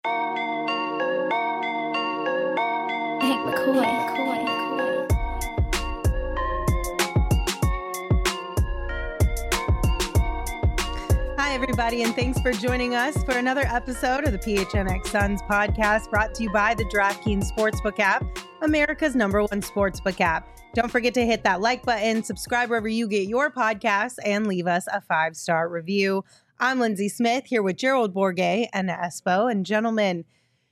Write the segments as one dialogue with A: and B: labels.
A: Hank McCoy.
B: Hi, everybody, and thanks for joining us for another episode of the PHNX Suns podcast, brought to you by the DraftKings Sportsbook app, America's #1 sportsbook app. Don't forget to hit that like button, subscribe wherever you get your podcasts, and leave us a 5-star review. I'm Lindsay Smith here with Gerald Bourguet and Espo. And gentlemen,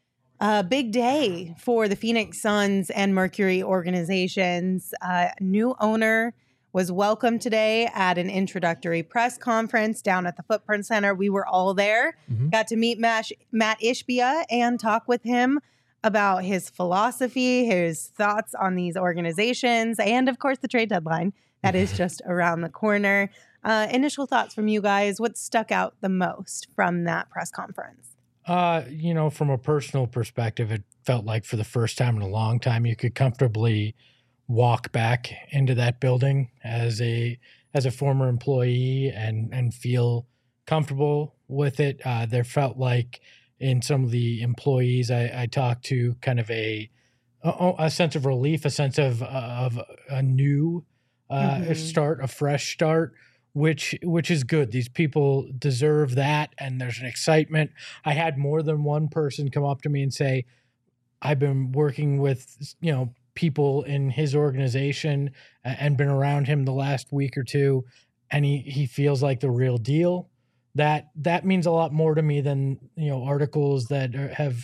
B: a big day for the Phoenix Suns and Mercury organizations. New owner was welcomed today at an introductory press conference down at the Footprint Center. We were all there, got to meet Matt Ishbia and talk with him about his philosophy, his thoughts on these organizations, and of course the trade deadline that is just around the corner. Initial thoughts from you guys. What stuck out the most from that press conference?
C: From a personal perspective, it felt like for the first time in a long time, you could comfortably walk back into that building as a former employee and feel comfortable with it. There felt like in some of the employees I talked to, kind of a sense of relief, a sense of a new start, a fresh start, which is good. These people deserve that, and there's an excitement. I had more than one person come up to me and say, I've been working with, people in his organization and been around him the last week or two, and he feels like the real deal. That means a lot more to me than articles that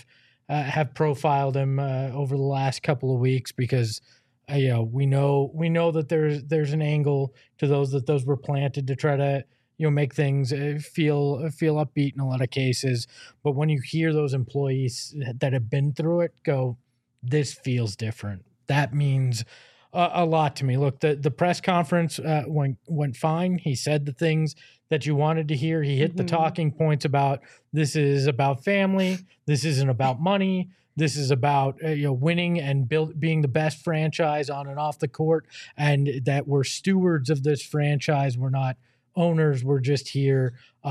C: have profiled him over the last couple of weeks, because we know that there's an angle to those were planted to try to make things feel upbeat in a lot of cases. But when you hear those employees that have been through it go, this feels different, that means a lot to me. Look, the press conference went fine. He said the things that you wanted to hear. He hit the talking points about this is about family. This isn't about money. This is about winning and being the best franchise on and off the court, and that we're stewards of this franchise. We're not owners. We're just here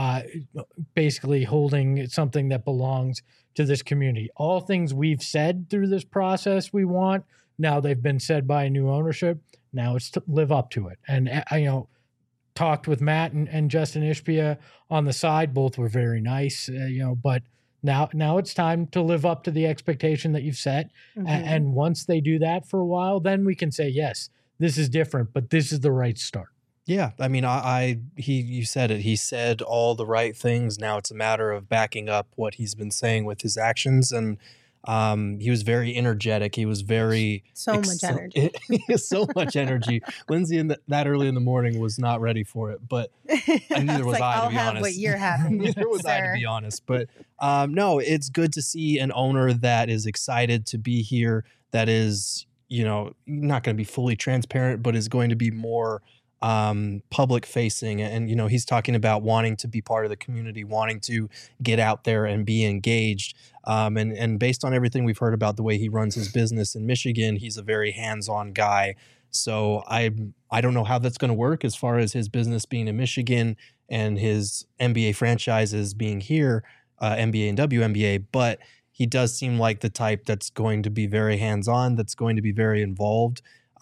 C: basically holding something that belongs to this community. All things we've said through this process we want. Now they've been said by new ownership. Now it's to live up to it. And talked with Matt and Justin Ishbia on the side. Both were very nice, but now it's time to live up to the expectation that you've set. And once they do that for a while, then we can say, yes, this is different, but this is the right start.
D: Yeah. I mean, you said it. He said all the right things. Now it's a matter of backing up what he's been saying with his actions. And he was very energetic. He was very
B: much energy.
D: So much energy. Lindsay that early in the morning was not ready for it, but neither was I, to be honest.
B: I'll have what you're having.
D: Neither was I, to be honest. But no, it's good to see an owner that is excited to be here, that is, not going to be fully transparent, but is going to be more public facing. And, he's talking about wanting to be part of the community, wanting to get out there and be engaged. And based on everything we've heard about the way he runs his business in Michigan, he's a very hands-on guy. So I don't know how that's going to work as far as his business being in Michigan and his NBA franchises being here, NBA and WNBA, but he does seem like the type that's going to be very hands-on, that's going to be very involved.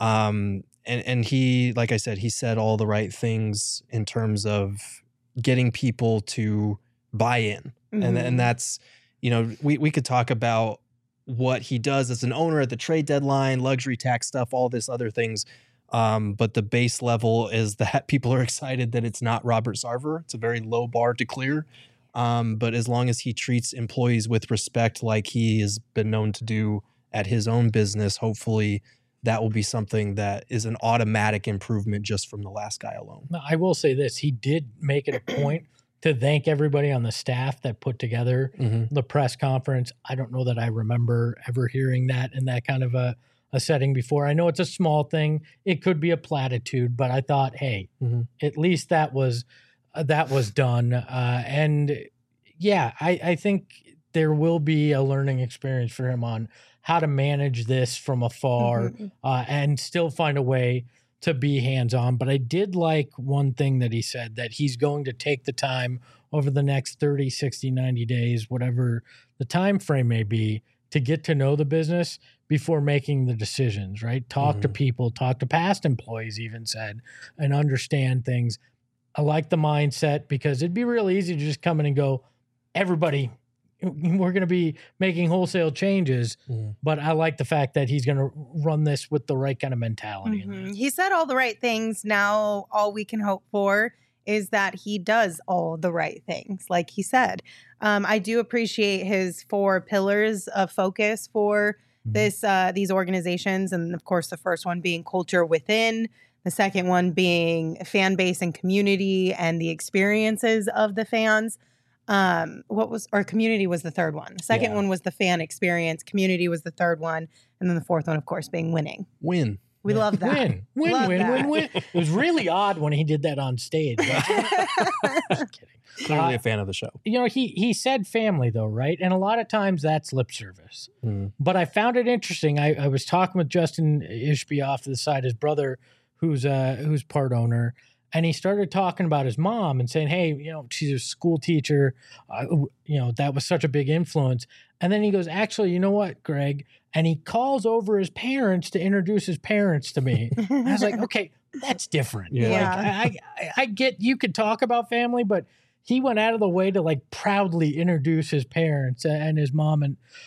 D: And he, like I said, he said all the right things in terms of getting people to buy in. And that's, we could talk about what he does as an owner at the trade deadline, luxury tax stuff, all this other things. But the base level is that people are excited that it's not Robert Sarver. It's a very low bar to clear. But as long as he treats employees with respect like he has been known to do at his own business, hopefully that will be something that is an automatic improvement just from the last guy alone.
C: I will say this. He did make it a point to thank everybody on the staff that put together the press conference. I don't know that I remember ever hearing that in that kind of a setting before. I know it's a small thing. It could be a platitude, but I thought, hey, at least that was done. And yeah, I think there will be a learning experience for him on how to manage this from afar and still find a way to be hands-on. But I did like one thing that he said, that he's going to take the time over the next 30, 60, 90 days, whatever the time frame may be to get to know the business before making the decisions, right? Talk to people, talk to past employees, even said, and understand things. I like the mindset because it'd be real easy to just come in and go, everybody, we're going to be making wholesale changes. But I like the fact that he's going to run this with the right kind of mentality. In there.
B: He said all the right things. Now, all we can hope for is that he does all the right things, like he said. I do appreciate his 4 pillars of focus for these organizations. And of course, the first one being culture within, the second one being fan base and community and the experiences of the fans. Community was the third one. The second one was the fan experience. Community was the third one. And then the fourth one, of course, being winning.
D: We
B: love that.
C: Win. It was really odd when he did that on stage. Just kidding.
D: Clearly a fan of the show.
C: He said family though, right? And a lot of times that's lip service. But I found it interesting. I was talking with Justin Ishbia off to the side, his brother, who's part owner. And he started talking about his mom and saying, hey, she's a school teacher. That was such a big influence. And then he goes, actually, you know what, Greg? And he calls over his parents to introduce his parents to me. I was like, okay, that's different.
B: Yeah.
C: I get you could talk about family, but he went out of the way to like proudly introduce his parents and his mom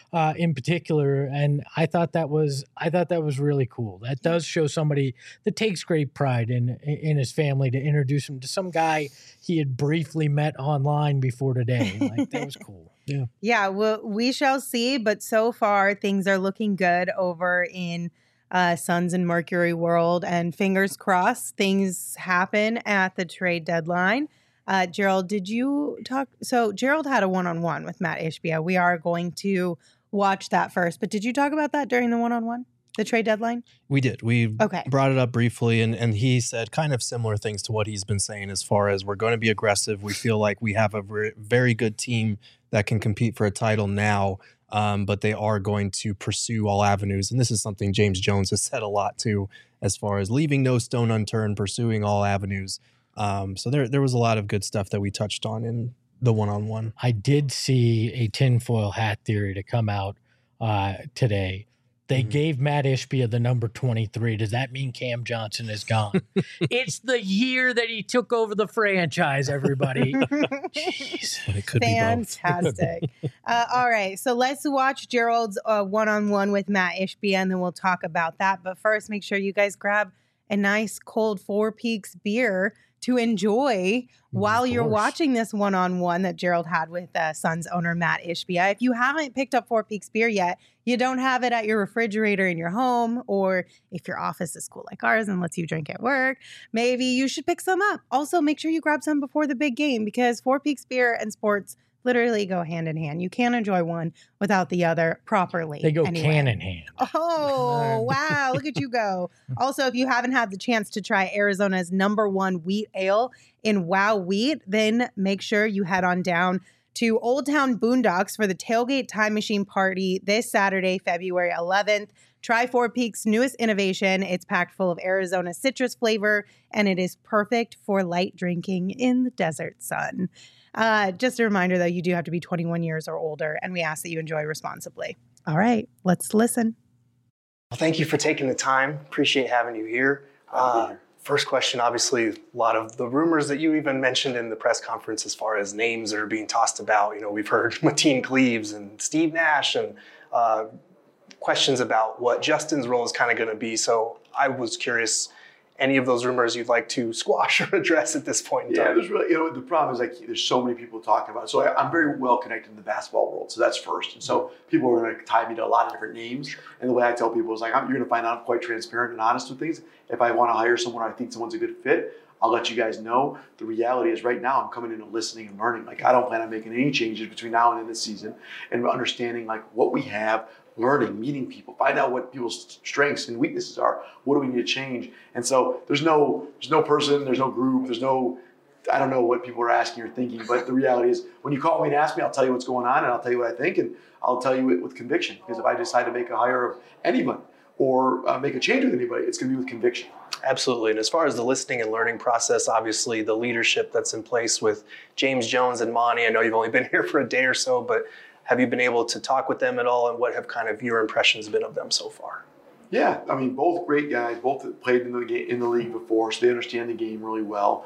C: in particular. And I thought that was really cool. That does show somebody that takes great pride in his family to introduce him to some guy he had briefly met online before today. Like that was cool. Yeah.
B: Yeah. Well, we shall see. But so far things are looking good over in Suns and Mercury world, and fingers crossed things happen at the trade deadline. Gerald, did you talk? So Gerald had a one-on-one with Matt Ishbia. We are going to watch that first, but did you talk about that during the one-on-one, the trade deadline?
D: We did. We brought it up briefly, and he said kind of similar things to what he's been saying as far as we're going to be aggressive. We feel like we have a very good team that can compete for a title now, but they are going to pursue all avenues. And this is something James Jones has said a lot too, as far as leaving no stone unturned, pursuing all avenues. So there was a lot of good stuff that we touched on in the one-on-one.
C: I did see a tinfoil hat theory to come out today. They gave Matt Ishbia the number 23. Does that mean Cam Johnson is gone? It's the year that he took over the franchise, everybody. Jeez.
D: But it could
B: Fantastic.
D: be both.
B: All right. So let's watch Gerald's one-on-one with Matt Ishbia, and then we'll talk about that. But first, make sure you guys grab a nice cold Four Peaks beer to enjoy while you're watching this one-on-one that Gerald had with Suns owner Matt Ishbia. If you haven't picked up Four Peaks beer yet, you don't have it at your refrigerator in your home, or if your office is cool like ours and lets you drink at work, maybe you should pick some up. Also, make sure you grab some before the big game, because Four Peaks beer and sports literally go hand in hand. You can't enjoy one without the other properly.
C: They go hand in hand.
B: Oh, wow. Look at you go. Also, if you haven't had the chance to try Arizona's #1 wheat ale in Wow Wheat, then make sure you head on down to Old Town Boondocks for the Tailgate Time Machine Party this Saturday, February 11th. Try Four Peaks' newest innovation. It's packed full of Arizona citrus flavor, and it is perfect for light drinking in the desert sun. Just a reminder, though, you do have to be 21 years or older, and we ask that you enjoy responsibly. All right, let's listen.
A: Well, thank you for taking the time. Appreciate having you here. First question, obviously, a lot of the rumors that you even mentioned in the press conference as far as names that are being tossed about. We've heard Mateen Cleaves and Steve Nash and questions about what Justin's role is kind of going to be. So I was curious, any of those rumors you'd like to squash or address at this point in time?
E: Yeah, there's really, the problem is there's so many people talking about it. So I'm very well connected in the basketball world. So that's first. And so people are going to tie me to a lot of different names. And the way I tell people is you're going to find out I'm quite transparent and honest with things. If I want to hire someone, I think someone's a good fit, I'll let you guys know. The reality is right now I'm coming in and listening and learning. I don't plan on making any changes between now and end of the season, and understanding what we have, learning, meeting people, find out what people's strengths and weaknesses are. What do we need to change? And so there's no person, there's no group, I don't know what people are asking or thinking, but the reality is when you call me and ask me, I'll tell you what's going on and I'll tell you what I think, and I'll tell you it with conviction, because if I decide to make a hire of anyone or make a change with anybody, it's going to be with conviction.
A: Absolutely. And as far as the listening and learning process, obviously the leadership that's in place with James Jones and Monty, I know you've only been here for a day or so, but Have you been able to talk with them at all, and what have kind of your impressions been of them so far?
E: Yeah, I mean, both great guys, both played in the league before, so they understand the game really well.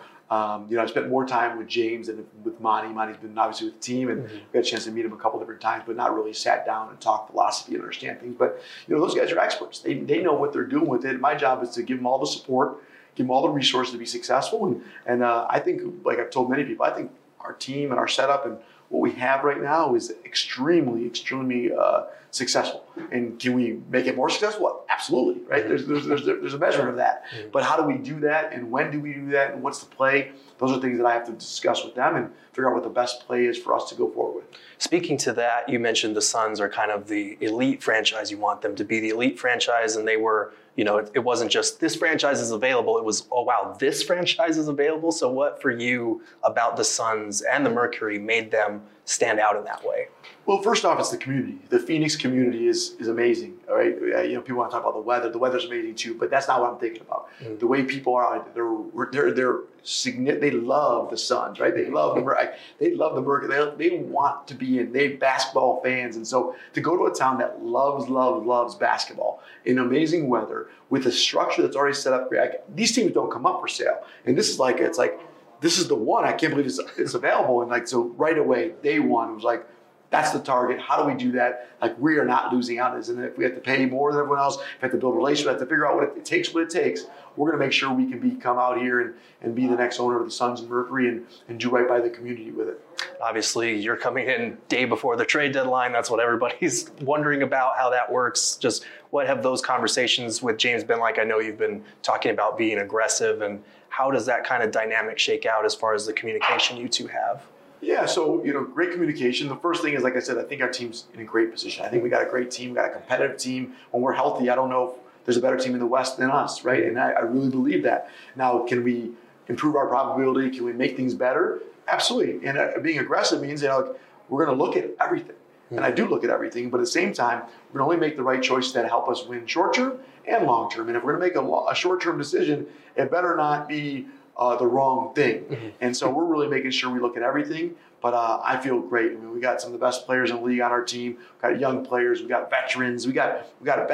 E: I spent more time with James than with Monty. Monty's been obviously with the team, and we had a chance to meet him a couple different times, but not really sat down and talked philosophy and understand things. But those guys are experts. They know what they're doing with it. My job is to give them all the support, give them all the resources to be successful. And I think, like I've told many people, I think our team and our setup and what we have right now is extremely, extremely successful. And can we make it more successful? Well, absolutely, right? There's a measurement of that. But how do we do that, and when do we do that, and what's the play? Those are things that I have to discuss with them and figure out what the best play is for us to go forward with.
A: Speaking to that, you mentioned the Suns are kind of the elite franchise. You want them to be the elite franchise, and they were, it wasn't just this franchise is available. It was, oh, wow, this franchise is available. So what for you about the Suns and the Mercury made them stand out in that way?
E: Well, first off, it's the community. The Phoenix community is amazing. All right, people want to talk about the weather. The weather's amazing too, but that's not what I'm thinking about. The way people are, they're significant. They love the Suns, right? They love the Mercury. They want to be in. They're basketball fans, and so to go to a town that loves basketball in amazing weather with a structure that's already set up. These teams don't come up for sale, and this is this is the one. I can't believe it's available, and so right away, day one, it was like, that's the target. How do we do that? We are not losing out. And if we have to pay more than everyone else, if we have to build relationships, we have to figure out what it takes, we're going to make sure we can come out here and be the next owner of the Suns and Mercury and do right by the community with it.
A: Obviously, you're coming in day before the trade deadline. That's what everybody's wondering about, how that works. Just what have those conversations with James been like? I know you've been talking about being aggressive, and how does that kind of dynamic shake out as far as the communication you two have?
E: Yeah, so, great communication. The first thing is, like I said, I think our team's in a great position. I think we got a great team, we got a competitive team. When we're healthy, I don't know if there's a better team in the West than us, right? And I really believe that. Now, can we improve our probability? Can we make things better? Absolutely. And being aggressive means, we're going to look at everything. And I do look at everything, but at the same time, we're going to only make the right choices that help us win short-term and long-term. And if we're going to make a short-term decision, it better not be the wrong thing. And so we're really making sure we look at everything. But I feel great. I mean, we got some of the best players in the league on our team. We got young players. We got veterans. We're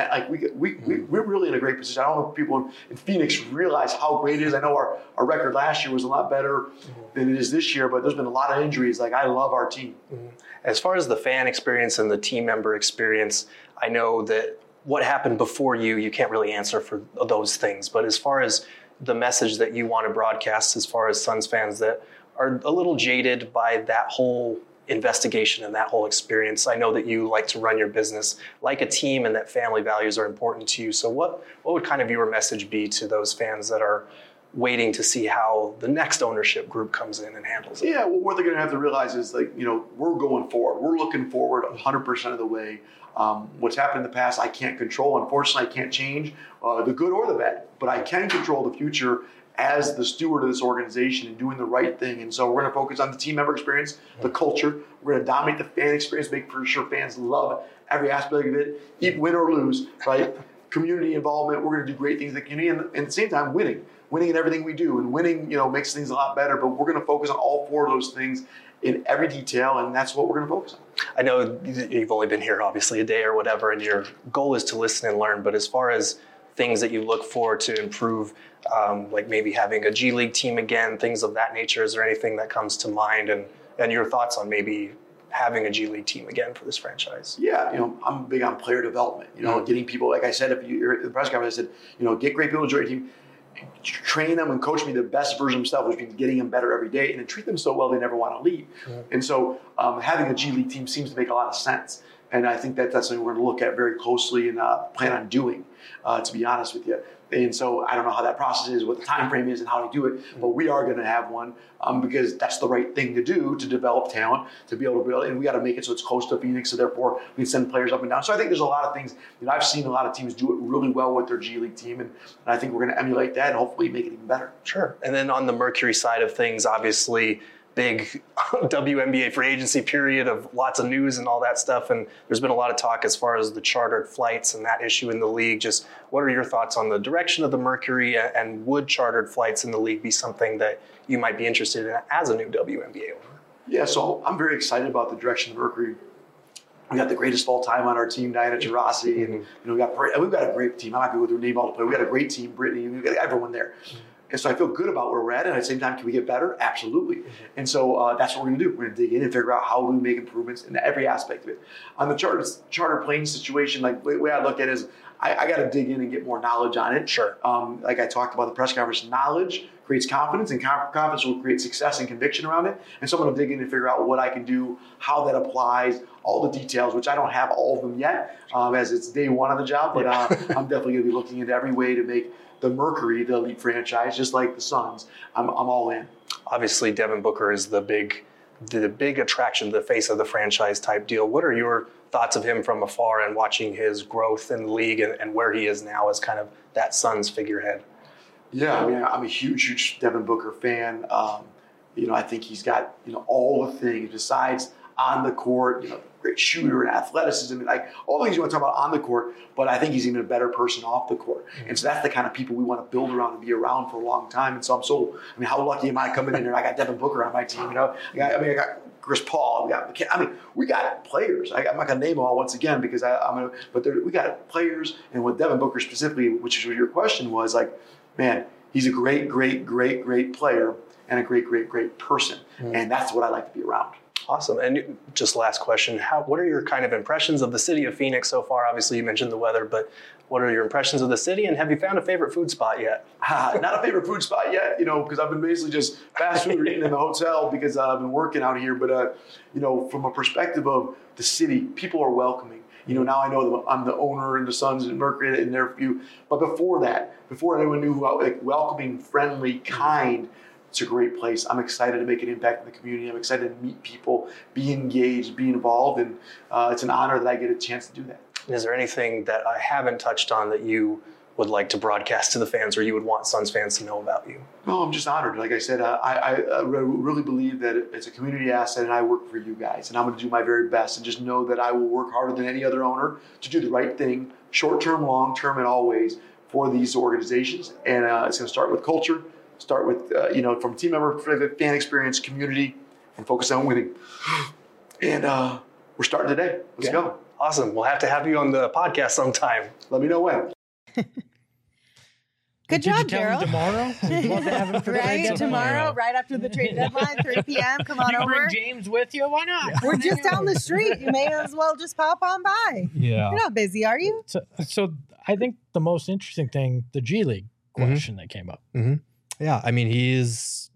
E: really in a great position. I don't know if people in Phoenix realize how great it is. I know our record last year was a lot better than it is this year, but there's been a lot of injuries. I love our team.
A: As far as the fan experience and the team member experience, I know that what happened before you can't really answer for those things. But as far as the message that you want to broadcast, as far as Suns fans that are a little jaded by that whole investigation and that whole experience. I know that you like to run your business like a team and that family values are important to you. So what would kind of your message be to those fans that are waiting to see how the next ownership group comes in and handles it?
E: Yeah, well, what they're going to have to realize is we're going forward. We're looking forward 100% of the way. What's happened in the past, I can't control. Unfortunately, I can't change the good or the bad, but I can control the future as the steward of this organization and doing the right thing. And so we're going to focus on the team member experience, the culture. We're going to dominate the fan experience, make sure fans love every aspect of it, even win or lose, right? Community involvement. We're going to do great things in the community, and at the same time, winning in everything we do. And winning, makes things a lot better. But we're going to focus on all four of those things in every detail, and that's what we're going to focus on.
A: I know you've only been here, obviously, a day or whatever, and your goal is to listen and learn. But as far as things that you look for to improve, like maybe having a G League team again, things of that nature, is there anything that comes to mind, and your thoughts on maybe having a G League team again for this franchise?
E: Yeah, I'm big on player development. Getting people, like I said, if you're at the press conference, I said, get great people to join your team, train them and coach me the best version of themselves, which means getting them better every day, and then treat them so well they never want to leave. And so having a G League team seems to make a lot of sense. And I think that's something we're going to look at very closely and plan on doing, to be honest with you. And so I don't know how that process is, what the time frame is, and how to do it, but we are going to have one because that's the right thing to do to develop talent, to be able to build, and we got to make it so it's close to Phoenix, so therefore we can send players up and down. So I think there's a lot of things. I've seen a lot of teams do it really well with their G League team, and I think we're going to emulate that and hopefully make it even better.
A: Sure. And then on the Mercury side of things, obviously, big WNBA free agency period of lots of news and all that stuff. And there's been a lot of talk as far as the chartered flights and that issue in the league. Just what are your thoughts on the direction of the Mercury, and would chartered flights in the league be something that you might be interested in as a new WNBA owner?
E: Yeah, so I'm very excited about the direction the Mercury We got the greatest of all time on our team, Diana Taurasi, and we've got a great team. I'm not going to go through name all the players. We got a great team, Brittany. We've got everyone there. And so I feel good about where we're at. And at the same time, can we get better? Absolutely. And so that's what we're going to do. We're going to dig in and figure out how do we make improvements in every aspect of it. On the charter plane situation, like the way I look at it is I got to dig in and get more knowledge on it.
A: Sure.
E: Like I talked about the press conference, knowledge creates confidence, and confidence will create success and conviction around it. And so I'm going to dig in and figure out what I can do, how that applies, all the details, which I don't have all of them yet, as it's day one on the job. But I'm definitely going to be looking into every way to make the Mercury, the elite franchise, just like the Suns. I'm all in.
A: Obviously, Devin Booker is the big attraction, the face of the franchise type deal. What are your thoughts of him from afar and watching his growth in the league and where he is now as kind of that Suns figurehead?
E: Yeah, I mean, I'm a huge Devin Booker fan. I think he's got all the things besides on the court. Great shooter and athleticism, and like all the things you want to talk about on the court. But I think he's even a better person off the court. And so that's the kind of people we want to build around and be around for a long time. And so how lucky am I coming in here? I got I Booker on my team. I got Chris Paul. We got players. I'm not going to name them all once again because we got players. And with Devin Booker specifically, which is what your question was, like, man, he's a great player and a great person. And that's what I like to be around.
A: Awesome. And just last question, what are your kind of impressions of the city of Phoenix so far? Obviously, you mentioned the weather, but what are your impressions of the city? And have you found a favorite food spot yet?
E: Not a favorite food spot yet, because I've been basically just fast food or eating in the hotel because I've been working out here. But, from a perspective of the city, people are welcoming. Now I know that I'm the owner and the Suns and Mercury in their view. But before anyone knew welcoming, friendly, kind, it's a great place. I'm excited to make an impact in the community. I'm excited to meet people, be engaged, be involved, and it's an honor that I get a chance to do that.
A: Is there anything that I haven't touched on that you would like to broadcast to the fans or you would want Suns fans to know about you?
E: No, I'm just honored. Like I said, I really believe that it's a community asset and I work for you guys. And I'm going to do my very best and just know that I will work harder than any other owner to do the right thing, short-term, long-term, and always for these organizations. And it's going to start with culture. Start with, from team member, fan experience, community, and focus on winning. And we're starting today. Let's go.
A: Awesome. We'll have to have you on the podcast sometime.
E: Let me know when.
B: Good job, Daryl.
C: Tomorrow? We'd love to have him for
B: tomorrow, right after the trade deadline, 3 p.m. Come on over.
C: Bring James with you? Why not?
B: We're just down the street. You may as well just pop on by.
C: Yeah.
B: You're not busy, are you?
C: So I think the most interesting thing, the G League question that came up.
D: Mm-hmm. Yeah, I mean, he was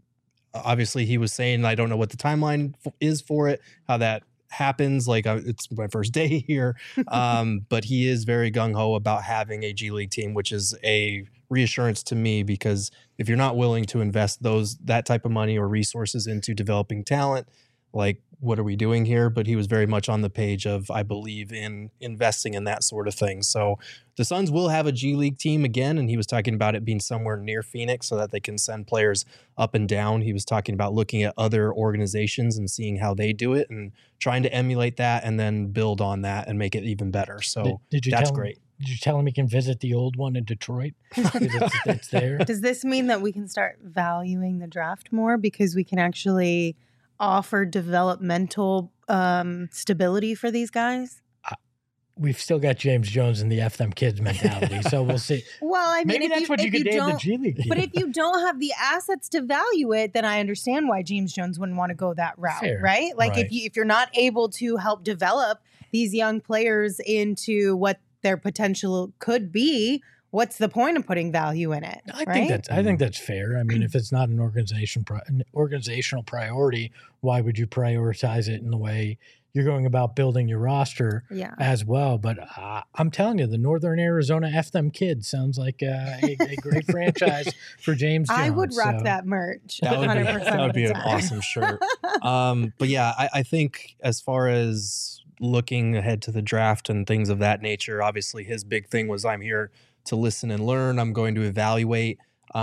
D: saying, I don't know what the timeline is for it, how that happens. Like, it's my first day here. But he is very gung-ho about having a G League team, which is a reassurance to me, because if you're not willing to invest that type of money or resources into developing talent, like, what are we doing here? But he was very much on the page of, I believe in investing in that sort of thing. So the Suns will have a G League team again, and he was talking about it being somewhere near Phoenix so that they can send players up and down. He was talking about looking at other organizations and seeing how they do it and trying to emulate that and then build on that and make it even better. So that's great.
C: Did you tell him he can visit the old one in Detroit? It's there.
B: Does this mean that we can start valuing the draft more because we can actually offer developmental stability for these guys?
C: We've still got James Jones and the F them kids mentality, so we'll see.
B: Well, I mean,
C: maybe that's what you could name the G League.
B: But if you don't have the assets to value it, then I understand why James Jones wouldn't want to go that route, right? Like if you're not able to help develop these young players into what their potential could be, what's the point of putting value in it?
C: I think that's fair. I mean, if it's not an organizational priority, why would you prioritize it in the way you're going about building your roster as well? But I'm telling you, the Northern Arizona F them kids sounds like a great franchise for James Jones.
B: I would rock that merch.
D: That would be an awesome shirt. But yeah, I think as far as looking ahead to the draft and things of that nature, obviously his big thing was, I'm here to listen and learn. I'm going to evaluate.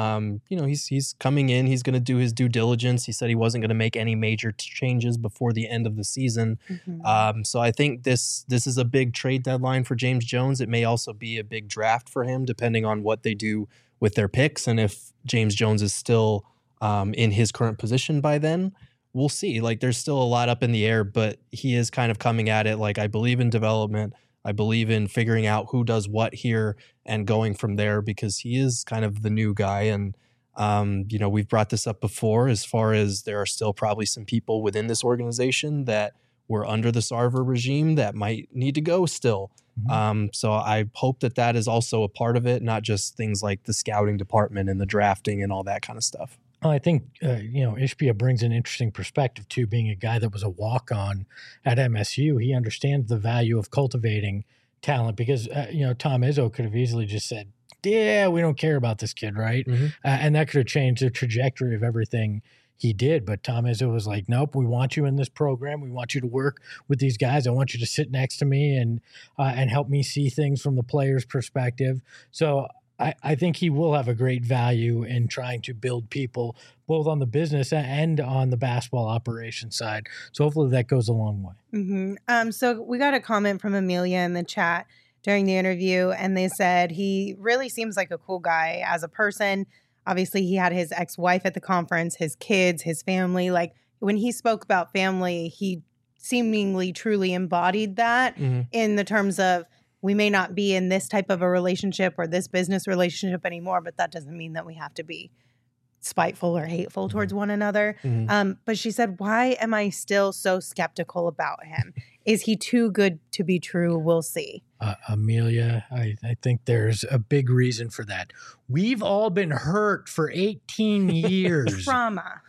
D: He's coming in. He's going to do his due diligence. He said he wasn't going to make any major changes before the end of the season. Mm-hmm. So I think this is a big trade deadline for James Jones. It may also be a big draft for him, depending on what they do with their picks and if James Jones is still in his current position by then, we'll see. Like, there's still a lot up in the air, but he is kind of coming at it like, I believe in development. I believe in figuring out who does what here and going from there, because he is kind of the new guy. And, we've brought this up before, as far as there are still probably some people within this organization that were under the Sarver regime that might need to go still. So I hope that is also a part of it, not just things like the scouting department and the drafting and all that kind of stuff.
C: Well, I think, Ishbia brings an interesting perspective too, being a guy that was a walk-on at MSU. He understands the value of cultivating talent, because, Tom Izzo could have easily just said, yeah, we don't care about this kid, right? And that could have changed the trajectory of everything he did. But Tom Izzo was like, nope, we want you in this program. We want you to work with these guys. I want you to sit next to me and help me see things from the player's perspective. So I think he will have a great value in trying to build people both on the business and on the basketball operation side. So hopefully that goes a long way.
B: So we got a comment from Amelia in the chat during the interview, and they said he really seems like a cool guy as a person. Obviously, he had his ex-wife at the conference, his kids, his family. Like, when he spoke about family, he seemingly truly embodied that in the terms of, we may not be in this type of a relationship or this business relationship anymore, but that doesn't mean that we have to be spiteful or hateful towards one another. But she said, why am I still so skeptical about him? Is he too good to be true? We'll see.
C: Amelia, I think there's a big reason for that. We've all been hurt for 18 years.
B: Trauma.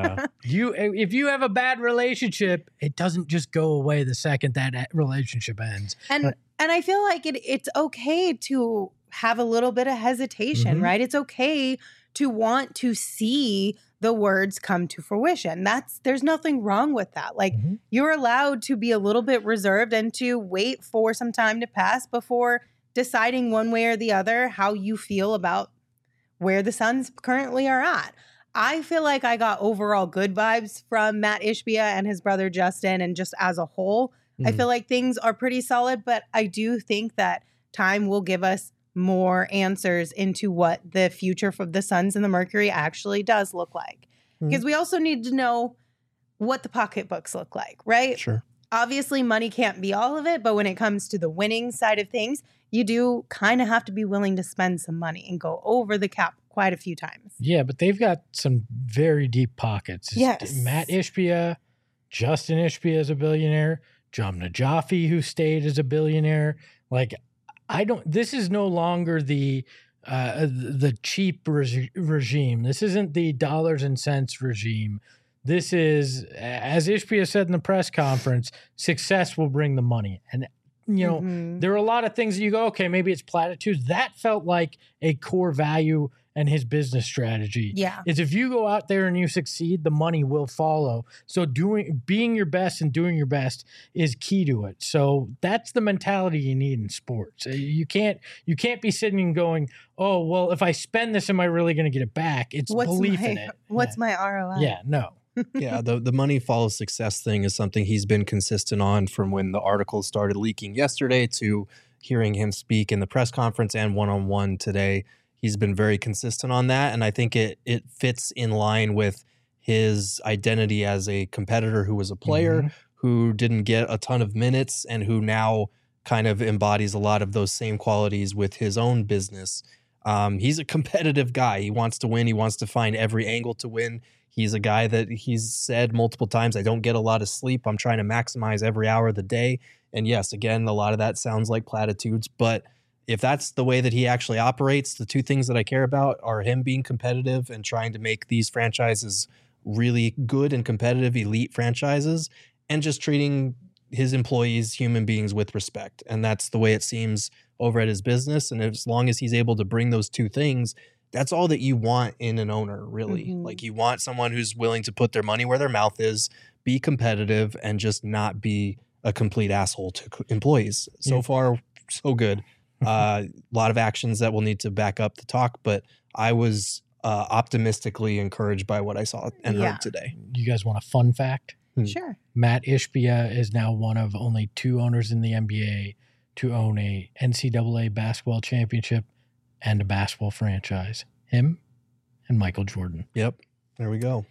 C: If you have a bad relationship, it doesn't just go away the second that relationship ends.
B: And I feel like it's okay to have a little bit of hesitation, right? It's okay to want to see the words come to fruition. There's nothing wrong with that. Like, you're allowed to be a little bit reserved and to wait for some time to pass before deciding one way or the other how you feel about where the Suns currently are at. I feel like I got overall good vibes from Matt Ishbia and his brother Justin, and just as a whole, I feel like things are pretty solid, but I do think that time will give us more answers into what the future for the Suns and the Mercury actually does look like. Because we also need to know what the pocketbooks look like, right?
D: Sure.
B: Obviously, money can't be all of it, but when it comes to the winning side of things, you do kind of have to be willing to spend some money and go over the cap quite a few times.
C: Yeah, but they've got some very deep pockets.
B: Yes.
C: Matt Ishbia, Justin Ishbia is a billionaire, John Najafi, who stayed, as a billionaire. Like, this is no longer the cheap regime. This isn't the dollars and cents regime. This is, as Ishbia said in the press conference, success will bring the money. And, there are a lot of things that you go, okay, maybe it's platitudes. That felt like a core value and his business strategy.
B: Yeah.
C: Is if you go out there and you succeed, the money will follow. So being your best and doing your best is key to it. So that's the mentality you need in sports. You can't be sitting and going, oh, well, if I spend this, am I really going to get it back? It's belief in it.
B: What's my ROI?
C: Yeah, no.
D: Yeah, the money follows success thing is something he's been consistent on from when the article started leaking yesterday to hearing him speak in the press conference and one-on-one today. He's been very consistent on that, and I think it fits in line with his identity as a competitor who was a player who didn't get a ton of minutes and who now kind of embodies a lot of those same qualities with his own business. He's a competitive guy. He wants to win. He wants to find every angle to win. He's a guy that he's said multiple times, I don't get a lot of sleep. I'm trying to maximize every hour of the day. And yes, again, a lot of that sounds like platitudes, but if that's the way that he actually operates, the two things that I care about are him being competitive and trying to make these franchises really good and competitive elite franchises, and just treating his employees, human beings, with respect. And that's the way it seems over at his business. And as long as he's able to bring those two things, that's all that you want in an owner, really. Like, you want someone who's willing to put their money where their mouth is, be competitive, and just not be a complete asshole to employees. So far, so good. A lot of actions that will need to back up the talk, but I was optimistically encouraged by what I saw and heard today.
C: You guys want a fun fact?
B: Sure.
C: Matt Ishbia is now one of only two owners in the NBA to own a NCAA basketball championship and a basketball franchise. Him and Michael Jordan.
D: Yep. There we go.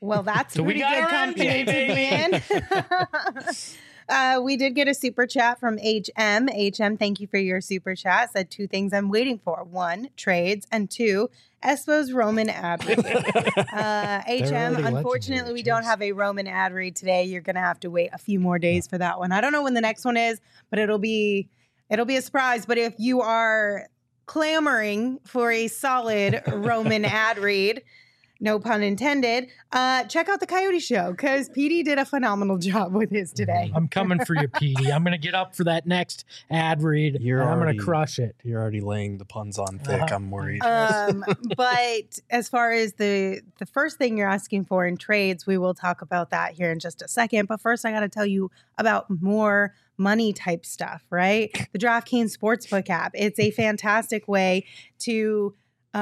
B: Well, that's
C: So we
B: pretty
C: got
B: good
C: our
B: company
C: MJ,
B: to be in. We did get a super chat from HM. HM, thank you for your super chat. Said 2 things I'm waiting for. 1, trades, and 2, Espo's Roman ad read. HM,
C: already
B: unfortunately,
C: legendary,
B: we don't
C: jeez.
B: have a Roman ad read today. You're going to have to wait a few more days for that one. I don't know when the next one is, but it'll be a surprise. But if you are clamoring for a solid Roman ad read, no pun intended, check out the Coyote Show because PD did a phenomenal job with his today.
C: I'm coming for you, Petey. I'm going to get up for that next ad read, and I'm going to crush it.
D: You're already laying the puns on thick. I'm worried.
B: But as far as the first thing you're asking for in trades, we will talk about that here in just a second. But first, I got to tell you about more money type stuff, right? The DraftKings Sportsbook app. It's a fantastic way to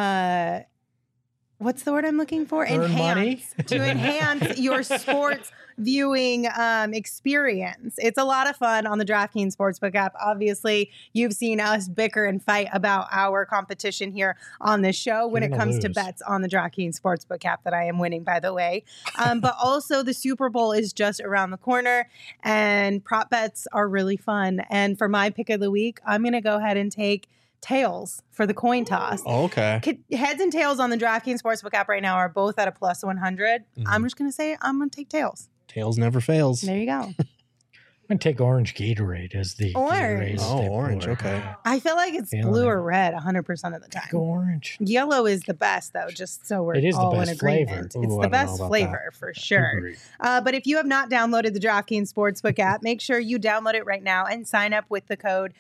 B: what's the word I'm looking for?
C: Earn money?
B: To enhance your sports viewing experience. It's a lot of fun on the DraftKings Sportsbook app. Obviously, you've seen us bicker and fight about our competition here on this show when it comes to bets on the DraftKings Sportsbook app that I am winning, by the way. But also the Super Bowl is just around the corner and prop bets are really fun. And for my pick of the week, I'm going to go ahead and take tails for the coin toss.
D: Oh, okay.
B: Heads and tails on the DraftKings Sportsbook app right now are both at a plus 100. I'm just going to say I'm going to take tails.
D: Tails never fails.
B: There you go.
C: I'm going to take orange Gatorade as the
B: Orange.
C: Gatorade
D: Oh,
C: step
D: orange.
C: forward.
D: Okay.
B: I feel like it's
C: Feeling
B: blue
C: it.
B: or red 100% of the time.
C: Go orange.
B: Yellow is the best, though, just so we're
C: It is the
B: all in
C: best flavor.
B: agreement.
D: Ooh,
B: It's
D: I
B: the
D: don't know
B: best
D: about
B: flavor for sure.
C: Agreed.
B: But if you have not downloaded the DraftKings Sportsbook app, make sure you download it right now and sign up with the code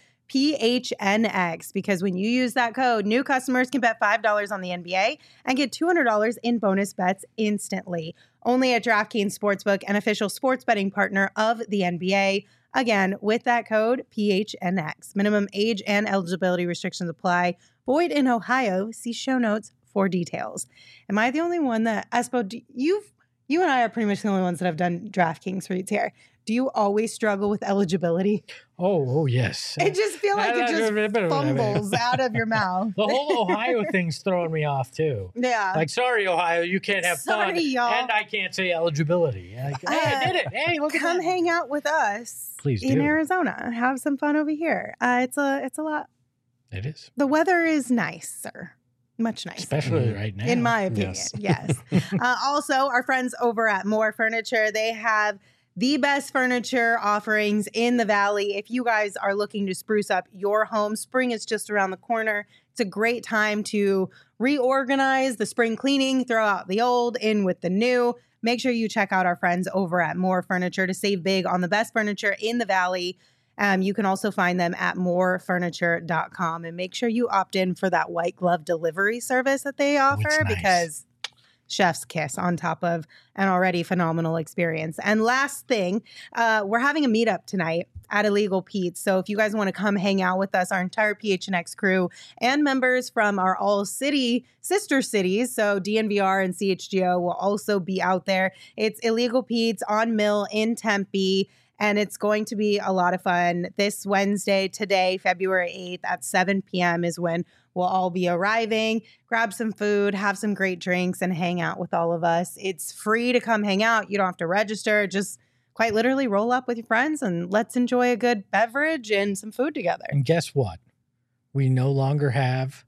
B: PHNX, because when you use that code, new customers can bet $5 on the NBA and get $200 in bonus bets instantly. Only at DraftKings Sportsbook, an official sports betting partner of the NBA. Again, with that code PHNX. Minimum age and eligibility restrictions apply. Void in Ohio. See show notes for details. Am I the only one that, Espo, you and I are pretty much the only ones that have done DraftKings reads here. Do you always struggle with eligibility?
C: Oh, yes.
B: I just feel like it just fumbles out of your mouth.
C: The whole Ohio thing's throwing me off, too.
B: Yeah.
C: Like, sorry, Ohio, you can't have fun.
B: Y'all.
C: And I can't say eligibility. Like, hey, I did it. Hey, look at that.
B: Come hang out with us.
C: Please
B: in
C: do.
B: Arizona. Have some fun over here. It's a lot.
C: It is.
B: The weather is nicer. Much nicer.
C: Especially right now.
B: In my opinion, yes. Also, our friends over at More Furniture, they have the best furniture offerings in the Valley. If you guys are looking to spruce up your home, spring is just around the corner. It's a great time to reorganize the spring cleaning, throw out the old, in with the new. Make sure you check out our friends over at More Furniture to save big on the best furniture in the Valley. You can also find them at morefurniture.com, and make sure you opt in for that white glove delivery service that they offer,
C: nice.
B: because chef's kiss on top of an already phenomenal experience. And last thing, we're having a meetup tonight at Illegal Pete's. So if you guys want to come hang out with us, our entire PHNX crew and members from our all city sister cities, so DNVR and CHGO, will also be out there. It's Illegal Pete's on Mill in Tempe. And it's going to be a lot of fun. This Wednesday, today, February 8th at 7 p.m. is when we'll all be arriving. Grab some food, have some great drinks, and hang out with all of us. It's free to come hang out. You don't have to register. Just quite literally roll up with your friends and let's enjoy a good beverage and some food together.
C: And guess what? We no longer have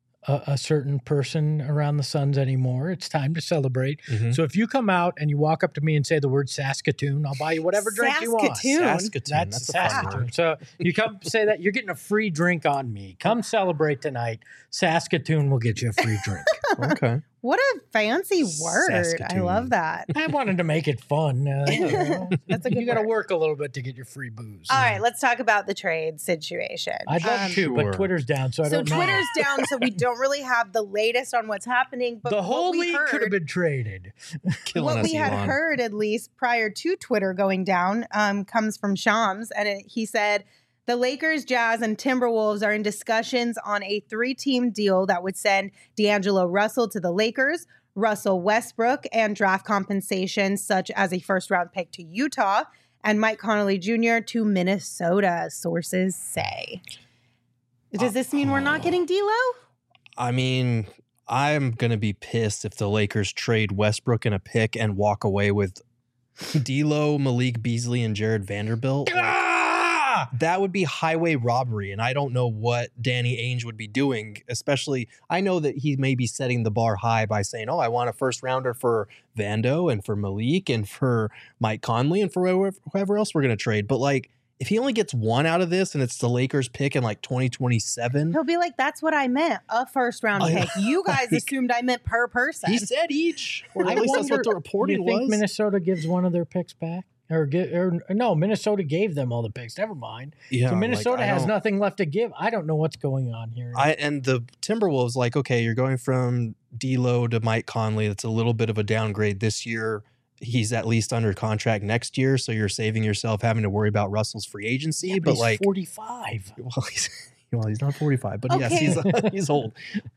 C: a certain person around the Suns anymore. It's time to celebrate.
D: Mhm.
C: So if you come out and you walk up to me and say the word Saskatoon, I'll buy you whatever drink you want.
B: Saskatoon?
D: That's a fun
C: Saskatoon.
D: word.
C: So you come say that, you're getting a free drink on me. Come celebrate tonight. Saskatoon will get you a free drink.
D: Okay.
B: What a fancy word. I
D: Saskatoon.
B: love that.
C: I wanted to make it fun.
B: That's a good
C: You got to
B: word.
C: work a little bit to get your free booze.
B: All right, let's talk about the trade situation.
C: I'd love to,
D: Sure.
C: but Twitter's down, so I
B: So
C: don't know.
B: Twitter's down, so we don't really have the latest on what's happening. But
C: The whole
B: what we
C: league could have
B: heard,
C: been traded.
D: Killing
B: what
D: us,
B: we had
D: Elon.
B: heard, at least prior to Twitter going down, comes from Shams, and he said the Lakers, Jazz, and Timberwolves are in discussions on a 3-team deal that would send D'Angelo Russell to the Lakers, Russell Westbrook, and draft compensation such as a first-round pick to Utah, and Mike Conley Jr. to Minnesota, sources say. Does this mean we're not getting D'Lo?
D: I mean, I'm going to be pissed if the Lakers trade Westbrook in a pick and walk away with D'Lo, Malik Beasley, and Jared Vanderbilt. That would be highway robbery, and I don't know what Danny Ainge would be doing, especially I know that he may be setting the bar high by saying, I want a first rounder for Vando and for Malik and for Mike Conley and for whoever else we're going to trade. But like, if he only gets one out of this and it's the Lakers pick in like 2027.
B: He'll be like, that's what I meant, a first round pick. You guys assumed I meant per person.
D: He said each. Or at least that's what the reporting
C: was. You think
D: was.
C: Minnesota gives one of their picks back? Or no, Minnesota gave them all the picks. Never mind.
D: Yeah,
C: so Minnesota has nothing left to give. I don't know what's going on here.
D: And the Timberwolves, like, okay, you're going from D'Lo to Mike Conley. That's a little bit of a downgrade this year. He's at least under contract next year, so you're saving yourself having to worry about Russell's free agency.
C: Yeah, but he's
D: like
C: 45.
D: Well, he's not 45, but
B: okay.
D: Yes, he's old.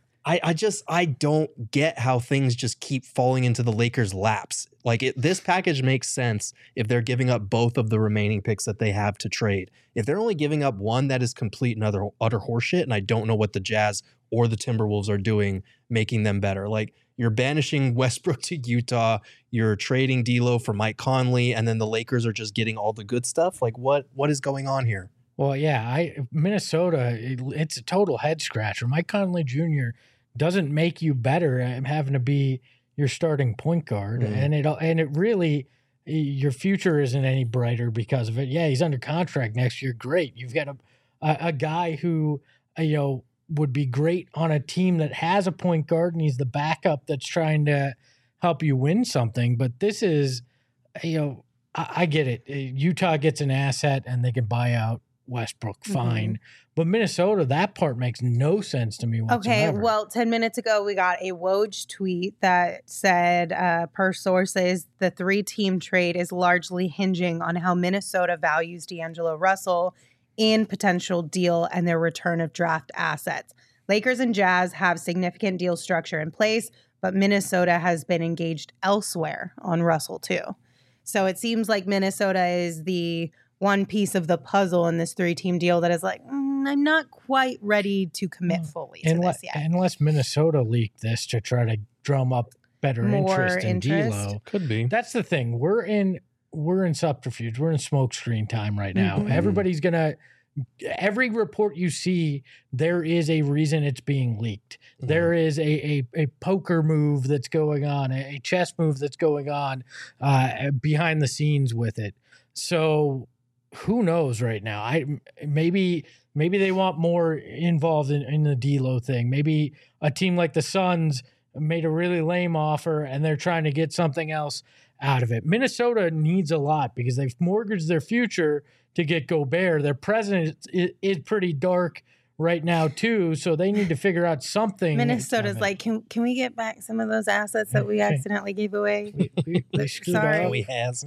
D: I don't get how things just keep falling into the Lakers' laps. Like this package makes sense if they're giving up both of the remaining picks that they have to trade. If they're only giving up one, that is complete and utter horseshit. And I don't know what the Jazz or the Timberwolves are doing, making them better. Like you're banishing Westbrook to Utah, you're trading D'Lo for Mike Conley, and then the Lakers are just getting all the good stuff. Like what is going on here?
C: Well, yeah, Minnesota, it's a total head scratcher. Mike Conley Jr. doesn't make you better at having to be your starting point guard, and it really, your future isn't any brighter because of it. Yeah, he's under contract next year. Great, you've got a guy who would be great on a team that has a point guard, and he's the backup that's trying to help you win something. But this is, I get it. Utah gets an asset, and they can buy out Westbrook, fine. But Minnesota, that part makes no sense to me whatsoever.
B: Okay, well, 10 minutes ago, we got a Woj tweet that said, per sources, the 3-team trade is largely hinging on how Minnesota values D'Angelo Russell in potential deal and their return of draft assets. Lakers and Jazz have significant deal structure in place, but Minnesota has been engaged elsewhere on Russell too. So it seems like Minnesota is the one piece of the puzzle in this 3-team deal that is like, I'm not quite ready to commit fully to this yet.
C: Unless Minnesota leaked this to try to drum up more interest in D'Lo.
D: Could be.
C: That's the thing. We're in subterfuge. We're in smoke screen time right now. Everybody's every report you see, there is a reason it's being leaked. There is a poker move that's going on, a chess move that's going on behind the scenes with it. So who knows right now? Maybe they want more involved in the D'Lo thing. Maybe a team like the Suns made a really lame offer and they're trying to get something else out of it. Minnesota needs a lot because they've mortgaged their future to get Gobert. Their president is pretty dark right now too, so they need to figure out something.
B: Minnesota's like, can we get back some of those assets that we accidentally gave away?
C: We
B: Sorry,
D: we has.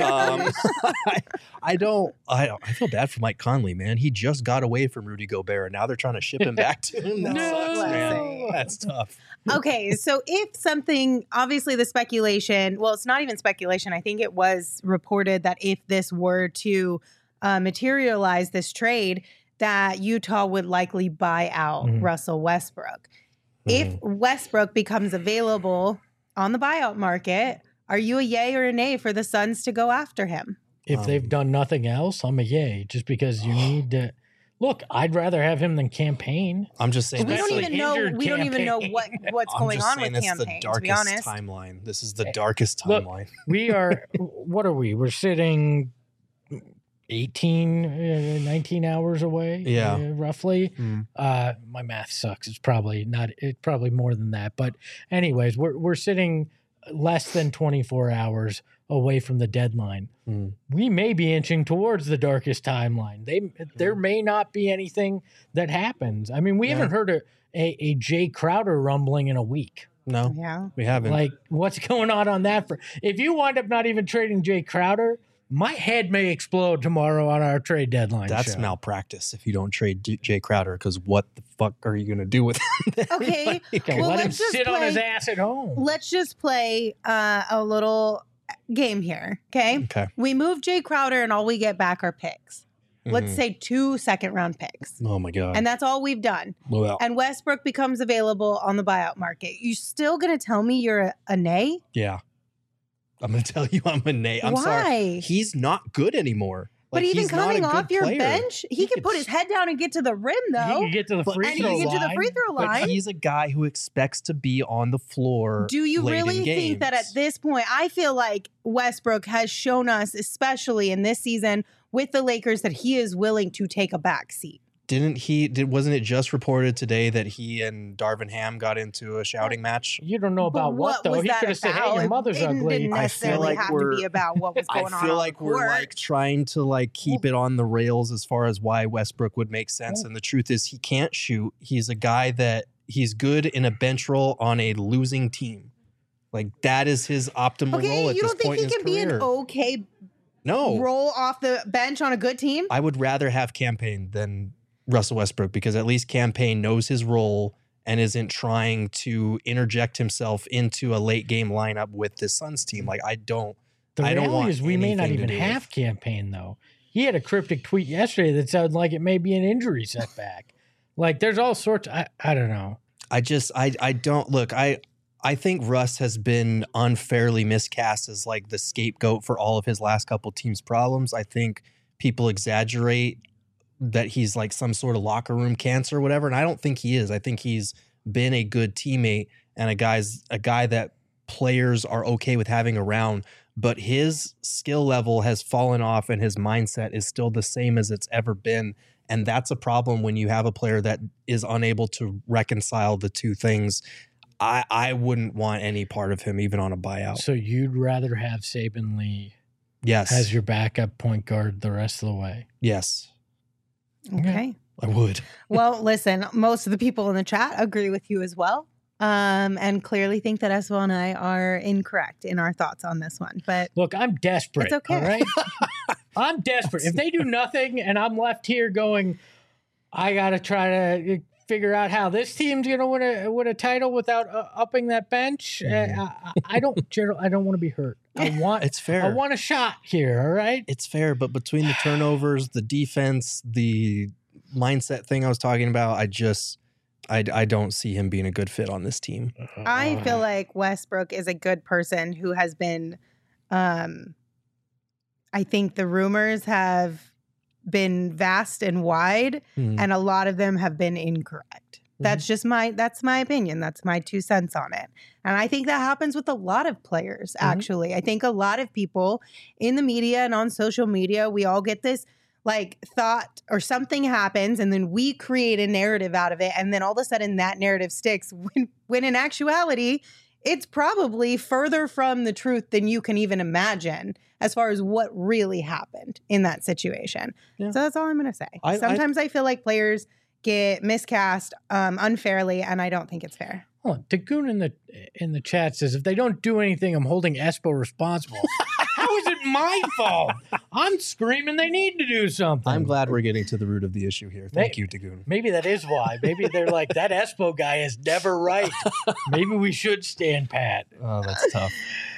D: I feel bad for Mike Conley, man. He just got away from Rudy Gobert, and now they're trying to ship him back to him. That sucks, man. That's tough.
B: Okay, so if something, obviously the speculation, well, it's not even speculation. I think it was reported that if this were to materialize, this trade, that Utah would likely buy out Russell Westbrook. If Westbrook becomes available on the buyout market, are you a yay or a nay for the Suns to go after him?
C: If they've done nothing else, I'm a yay, just because you need to. Look, I'd rather have him than campaign.
D: I'm just saying.
B: We don't even know what's going on with campaign, to be honest.
D: Timeline. This is the darkest timeline.
C: Look, what are we? We're sitting 19 hours away, roughly. My math sucks. It's probably more than that. But anyways, we're sitting less than 24 hours away from the deadline. We may be inching towards the darkest timeline. There may not be anything that happens. I mean, we haven't heard a Jay Crowder rumbling in a week.
D: No, we haven't.
C: Like, what's going on that? If you wind up not even trading Jay Crowder, my head may explode tomorrow on our trade deadline.
D: That's malpractice if you don't trade Jay Crowder, because what the fuck are you going to do with him?
B: Okay.
C: Let him sit on his ass at home.
B: Let's just play a little game here, okay?
D: Okay.
B: We move Jay Crowder and all we get back are picks. let's say 2 second-round picks.
D: Oh my God.
B: And that's all we've done.
D: Well,
B: And Westbrook becomes available on the buyout market. You still going to tell me you're a nay?
D: yeah. I'm going to tell you I'm a nay. I'm
B: Why?
D: sorry. He's not good anymore.
B: But even
D: he's not a
B: coming
D: good
B: off your
D: player.
B: bench, he can put his head down and get to the rim,
C: He
B: though.
C: can get to the
D: But-
C: free
B: And he
C: throw
B: can get to the
C: line.
B: free throw
D: But
B: line.
D: he's a guy who expects to be on the floor.
B: Do you
D: late in
B: really think that at
D: games.
B: this point, I feel like Westbrook has shown us, especially in this season with the Lakers, that he is willing to take a back seat?
D: Wasn't it just reported today that he and Darvin Ham got into a shouting match?
C: You don't know
B: But
C: about what, though.
B: was
C: He
B: that
C: could have said,
B: about?
C: "Hey, your mother's
B: It
C: ugly."
B: didn't
D: I feel
B: necessarily
D: like
B: have to
D: we're-
B: be about what was going on.
D: I feel
B: on
D: like
B: the
D: we're
B: court.
D: like trying to like keep it on the rails as far as why Westbrook would make sense. And the truth is he can't shoot. He's a guy that he's good in a bench role on a losing team. Like that is his optimal role
B: Okay,
D: at
B: you
D: this
B: don't think
D: point
B: he
D: in his
B: can be
D: career.
B: an okay
D: No.
B: roll off the bench on a good team?
D: I would rather have Campaign than Russell Westbrook because at least Campaign knows his role and isn't trying to interject himself into a late game lineup with this Suns team. Like I don't
C: The
D: I don't
C: reality
D: want
C: is we may not
D: anything to
C: even
D: do with-
C: have Campaign, though. He had a cryptic tweet yesterday that sounded like it may be an injury setback. Like there's all sorts. I don't know.
D: I don't look. I think Russ has been unfairly miscast as like the scapegoat for all of his last couple teams' problems. I think people exaggerate that he's like some sort of locker room cancer or whatever, and I don't think he is. I think he's been a good teammate and a guy that players are okay with having around, but his skill level has fallen off and his mindset is still the same as it's ever been. And that's a problem when you have a player that is unable to reconcile the two things. I wouldn't want any part of him, even on a buyout.
C: So you'd rather have Saban Lee
D: Yes.
C: as your backup point guard the rest of the way?
D: Yes,
B: Okay.
D: I would.
B: Well, listen, most of the people in the chat agree with you as well. And clearly think that Esval and I are incorrect in our thoughts on this one. But
C: Look, I'm desperate.
B: It's okay.
C: All right? I'm desperate. If they do nothing and I'm left here going, I got to try to figure out how this team's going to win a title without upping that bench. I don't, Gerald, I don't want to be hurt.
D: It's fair.
C: I want a shot here. All right.
D: It's fair, but between the turnovers, the defense, the mindset thing I was talking about, I don't see him being a good fit on this team.
B: I feel like Westbrook is a good person who has been, I think the rumors have been vast and wide, and a lot of them have been incorrect. That's just my opinion. That's my 2 cents on it. And I think that happens with a lot of players, actually. I think a lot of people in the media and on social media, we all get this like thought or something happens and then we create a narrative out of it. And then all of a sudden that narrative sticks when in actuality, it's probably further from the truth than you can even imagine as far as what really happened in that situation.
D: Yeah.
B: So that's all I'm going to say.
D: I
B: Sometimes I feel like players get miscast unfairly, and I don't think it's fair.
C: Oh, Dagoon in the chat says, if they don't do anything, I'm holding Espo responsible. How is it my fault? I'm screaming they need to do something.
D: I'm glad we're getting to the root of the issue here. Thank you, Dagoon.
C: Maybe that is why. Maybe they're like, that Espo guy is never right. Maybe we should stand pat.
D: Oh, that's tough.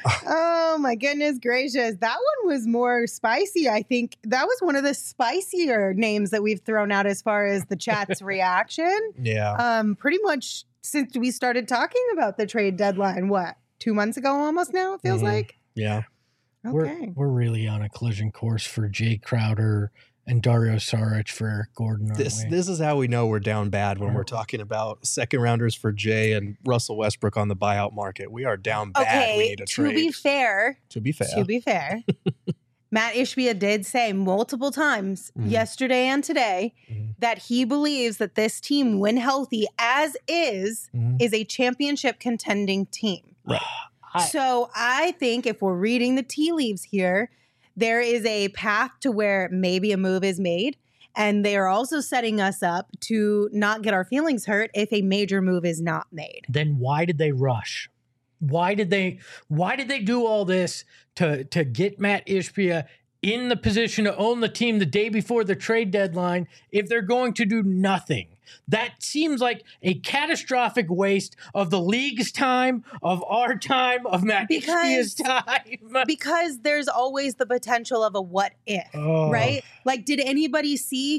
B: Oh my goodness gracious. That one was more spicy. I think that was one of the spicier names that we've thrown out as far as the chat's reaction.
D: Yeah.
B: Pretty much since we started talking about the trade deadline, 2 months ago almost now, it feels like?
D: Yeah.
B: Okay.
C: We're really on a collision course for Jay Crowder and Dario Saric for Eric Gordon. Aren't we?
D: This is how we know we're down bad when we're talking about second rounders for Jay and Russell Westbrook on the buyout market. We are down bad. We need a trade.
B: To be fair,
D: To be fair.
B: Matt Ishbia did say multiple times yesterday and today that he believes that this team, when healthy as is a championship contending team.
D: Right.
B: So I think if we're reading the tea leaves here, there is a path to where maybe a move is made. And they are also setting us up to not get our feelings hurt if a major move is not made.
C: Then why did they rush? Why did they do all this to get Matt Ishbia in the position to own the team the day before the trade deadline if they're going to do nothing? That seems like a catastrophic waste of the league's time, of our time, of Matt Ishbia's time.
B: Because there's always the potential of a what if, right? Like, did anybody see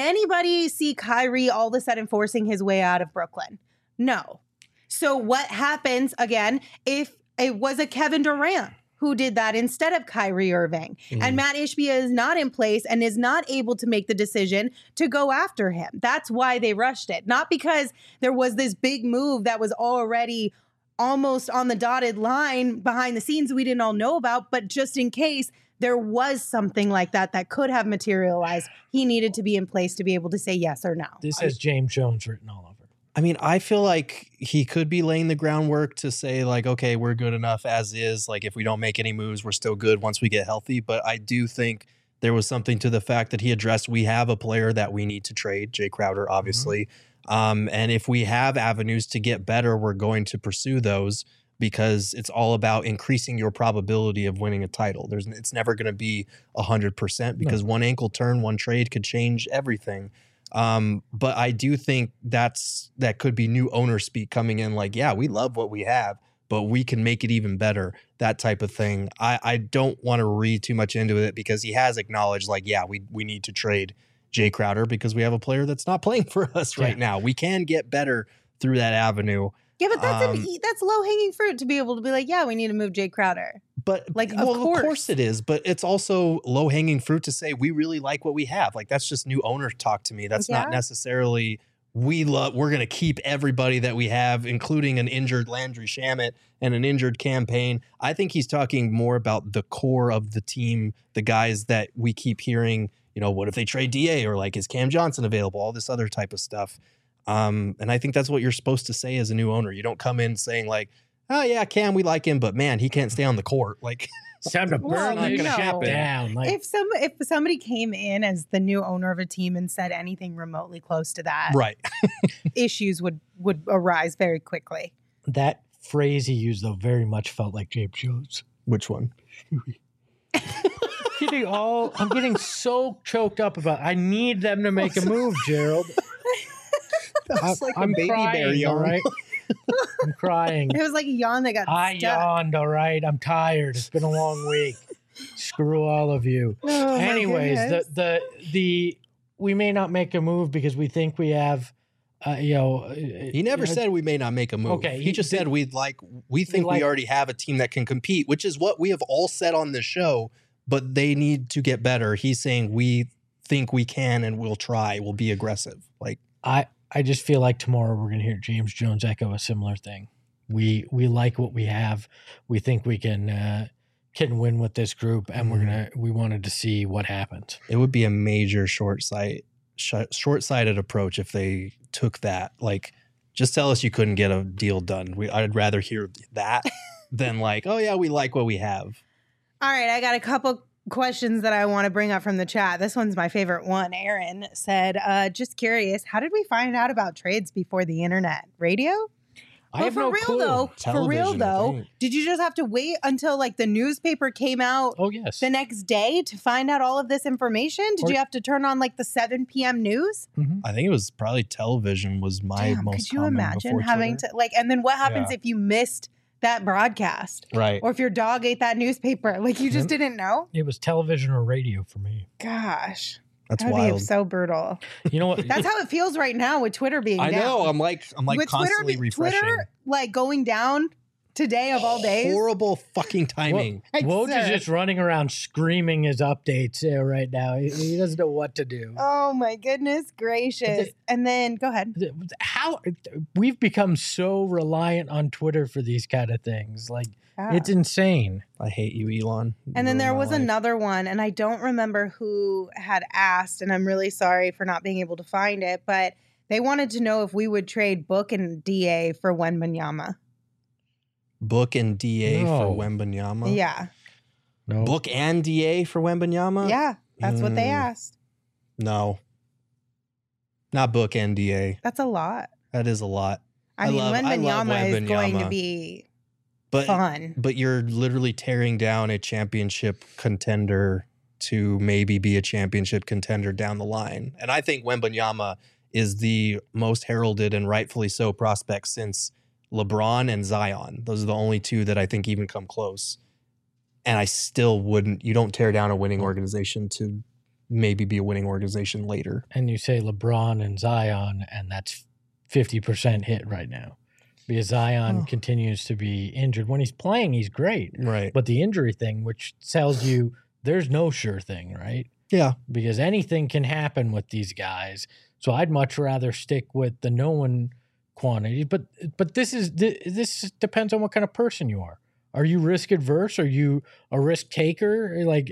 B: Kyrie all of a sudden forcing his way out of Brooklyn? No. So what happens, again, if it was a Kevin Durant who did that instead of Kyrie Irving? And Matt Ishbia is not in place and is not able to make the decision to go after him. That's why they rushed it. Not because there was this big move that was already almost on the dotted line behind the scenes we didn't all know about, but just in case there was something like that could have materialized, he needed to be in place to be able to say yes or no.
C: This has James Jones written all over.
D: I mean, I feel like he could be laying the groundwork to say, like, okay, we're good enough as is. Like, if we don't make any moves, we're still good once we get healthy. But I do think there was something to the fact that he addressed, we have a player that we need to trade, Jay Crowder, obviously. And if we have avenues to get better, we're going to pursue those, because it's all about increasing your probability of winning a title. It's never going to be 100% because one ankle turn, one trade could change everything. But I do think that could be new owner speak coming in, like, yeah, we love what we have, but we can make it even better, that type of thing. I don't want to read too much into it, because he has acknowledged, like, yeah, we need to trade Jay Crowder because we have a player that's not playing for us right now. We can get better through that avenue.
B: Yeah, but that's low-hanging fruit to be able to be like, yeah, we need to move Jay Crowder.
D: But
B: like,
D: of course it is. But it's also low-hanging fruit to say we really like what we have. Like, that's just new owner talk to me. That's not necessarily we're going to keep everybody that we have, including an injured Landry Shamet and an injured campaign. I think he's talking more about the core of the team, the guys that we keep hearing, what if they trade DA, or like, is Cam Johnson available? All this other type of stuff. And I think that's what you're supposed to say as a new owner. You don't come in saying, like, oh yeah, Cam, we like him, but man, he can't stay on the court. Like,
C: it's time to burn this shit down. Like,
B: if somebody came in as the new owner of a team and said anything remotely close to that,
D: right,
B: issues would arise very quickly.
C: That phrase he used, though, very much felt like James Jones.
D: Which one?
C: I'm getting so choked up about it. I need them to make a move, Gerald.
D: That's like
C: I'm
D: a baby
C: crying,
D: bear yawn.
C: All right? I'm crying.
B: It was like a yawn that got
C: I
B: stuck.
C: yawned, all right? I'm tired. It's been a long week. Screw all of you.
B: Oh,
C: anyways, the we may not make a move because we think we have
D: he never said we may not make a move.
C: Okay,
D: he just said we think we already have a team that can compete, which is what we have all said on this show, but they need to get better. He's saying we think we can and we'll try. We'll be aggressive. Like,
C: I just feel like tomorrow we're going to hear James Jones echo a similar thing. We like what we have. We think we can win with this group, and we wanted to see what happens.
D: It would be a major short-sighted approach if they took that. Like, just tell us you couldn't get a deal done. I'd rather hear that than like, oh yeah, we like what we have.
B: All right, I got a couple questions that I want to bring up from the chat. This one's my favorite one. Aaron said, just curious, how did we find out about trades before the internet? Radio?
C: I have no clue.
B: For real though, did you just have to wait until like the newspaper came out the next day to find out all of this information? Did you have to turn on like the 7 p.m. news?
D: Mm-hmm. I think it was probably television was my most
B: could you imagine having to like, and then what happens if you missed that broadcast,
D: right?
B: Or if your dog ate that newspaper, like you just didn't know.
C: It was television or radio for me.
B: Gosh,
D: that's
B: wild. So brutal.
C: You know what?
B: That's how it feels right now with Twitter being down.
D: I know. I'm like with constantly refreshing.
B: Twitter like going down today of all days.
D: Horrible fucking timing.
C: Woj is just running around screaming his updates right now. He doesn't know what to do.
B: Oh my goodness gracious. And then go ahead.
C: How we've become so reliant on Twitter for these kind of things. Like, it's insane.
D: I hate you, Elon.
B: And then there was another one, and I don't remember who had asked, and I'm really sorry for not being able to find it, but they wanted to know if we would trade Book and DA for Wembanyama.
D: Book and DA for Wembanyama?
B: Yeah.
C: No.
D: Book and DA for Wembanyama?
B: Yeah, that's what they asked.
D: No. Not Book and DA.
B: That's a lot.
D: That is a lot.
B: I mean, Wembanyama is going to be fun.
D: But you're literally tearing down a championship contender to maybe be a championship contender down the line. And I think Wembanyama is the most heralded and rightfully so prospect since LeBron and Zion. Those are the only two that I think even come close. And I still wouldn't, you don't tear down a winning organization to maybe be a winning organization later.
C: And you say LeBron and Zion, and that's 50% hit right now. Because Zion continues to be injured. When he's playing, he's great.
D: Right.
C: But the injury thing, which tells you there's no sure thing, right?
D: Yeah.
C: Because anything can happen with these guys. So I'd much rather stick with the known quantity. But this depends on what kind of person you are. Are you risk adverse? Are you a risk taker? Like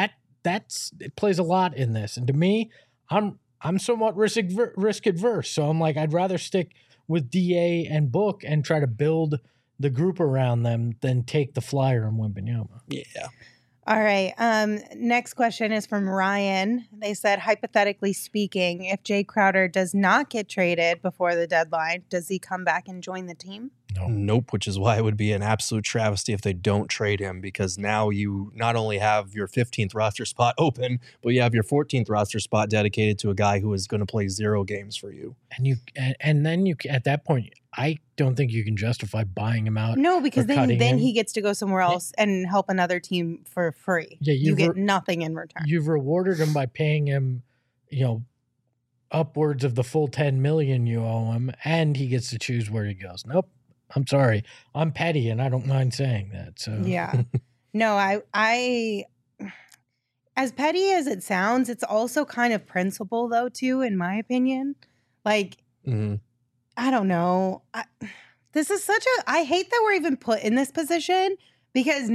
C: it plays a lot in this. And to me, I'm somewhat risk adverse. So I'm like, I'd rather stick with DA and Book and try to build the group around them than take the flyer on Wembanyama.
D: Yeah.
B: All right. Next question is from Ryan. They said, hypothetically speaking, if Jay Crowder does not get traded before the deadline, does he come back and join the team?
C: No.
D: Nope, which is why it would be an absolute travesty if they don't trade him, because now you not only have your 15th roster spot open, but you have your 14th roster spot dedicated to a guy who is going to play 0 games for you.
C: And then you at that point, I don't think you can justify buying him out.
B: No, because then
C: him.
B: he gets to go somewhere else and help another team for free.
C: Yeah,
B: you get nothing in return.
C: You've rewarded him by paying him, upwards of the full $10 million you owe him, and he gets to choose where he goes. Nope. I'm sorry. I'm petty, and I don't mind saying that. So
B: yeah, no, I, as petty as it sounds, it's also kind of principle though too, in my opinion. Like, I don't know. This is I hate that we're even put in this position, because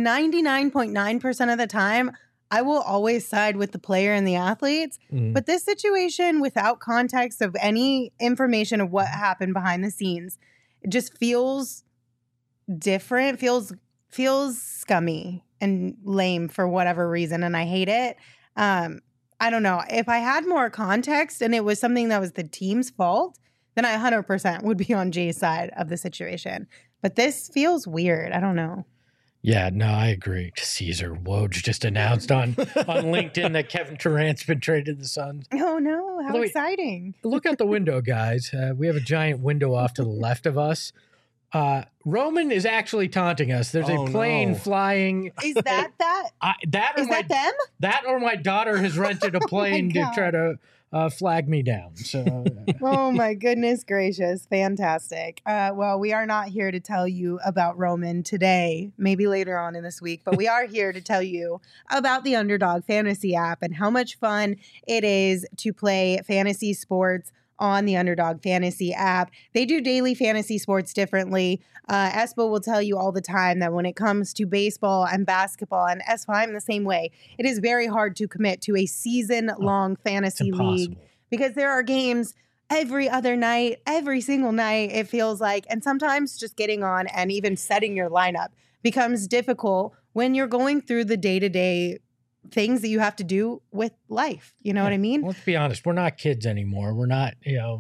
B: 99.9% of the time, I will always side with the player and the athletes. But this situation, without context of any information of what happened behind the scenes, it just feels different, feels scummy and lame for whatever reason, and I hate it. I don't know. If I had more context and it was something that was the team's fault, then I 100% would be on Jay's side of the situation. But this feels weird. I don't know.
C: Yeah, no, I agree. Caesar Woj just announced on LinkedIn that Kevin Durant's been traded to the Suns.
B: Oh, no. How exciting.
C: Look out the window, guys. We have a giant window off to the left of us. Roman is actually taunting us. There's a plane flying.
B: Is that? Is that them?
C: That or my daughter has rented a plane to try to flag me down. So,
B: oh my goodness gracious. Fantastic. Well, we are not here to tell you about Roman today, maybe later on in this week, but we are here to tell you about the Underdog Fantasy app and how much fun it is to play fantasy sports on the Underdog Fantasy app. They do daily fantasy sports differently. Espo will tell you all the time that when it comes to baseball and basketball, and Espo, I'm the same way, it is very hard to commit to a season-long fantasy league, because there are games every other night, every single night, it feels like, and sometimes just getting on and even setting your lineup becomes difficult when you're going through the day-to-day things that you have to do with life. You know what I mean?
C: Let's be honest. We're not kids anymore. We're not,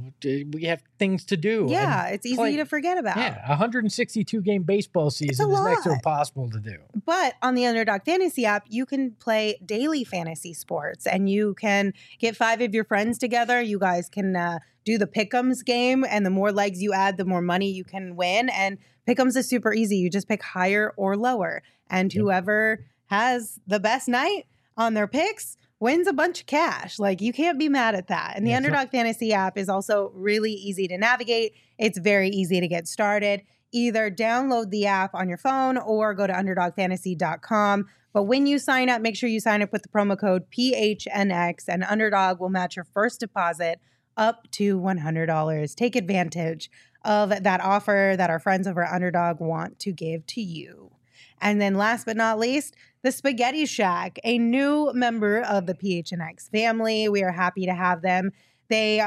C: we have things to do.
B: Yeah, it's easy to forget about.
C: Yeah, 162 game baseball season is next to impossible to do.
B: But on the Underdog Fantasy app, you can play daily fantasy sports, and you can get 5 of your friends together. You guys can do the Pick'ems game, and the more legs you add, the more money you can win. And Pick'ems is super easy. You just pick higher or lower, and whoever has the best night on their picks wins a bunch of cash. Like, you can't be mad at that. And the Underdog Fantasy app is also really easy to navigate. It's very easy to get started. Either download the app on your phone or go to underdogfantasy.com. But when you sign up, make sure you sign up with the promo code PHNX, and Underdog will match your first deposit up to $100. Take advantage of that offer that our friends over at Underdog want to give to you. And then last but not least, the Spaghetti Shack, a new member of the PHNX family. We are happy to have them. They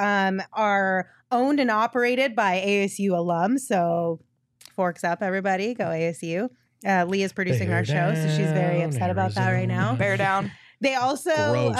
B: are owned and operated by ASU alums. So forks up, everybody. Go ASU. Leah's producing our show, so she's very upset about that right now.
F: Bear down.
B: They also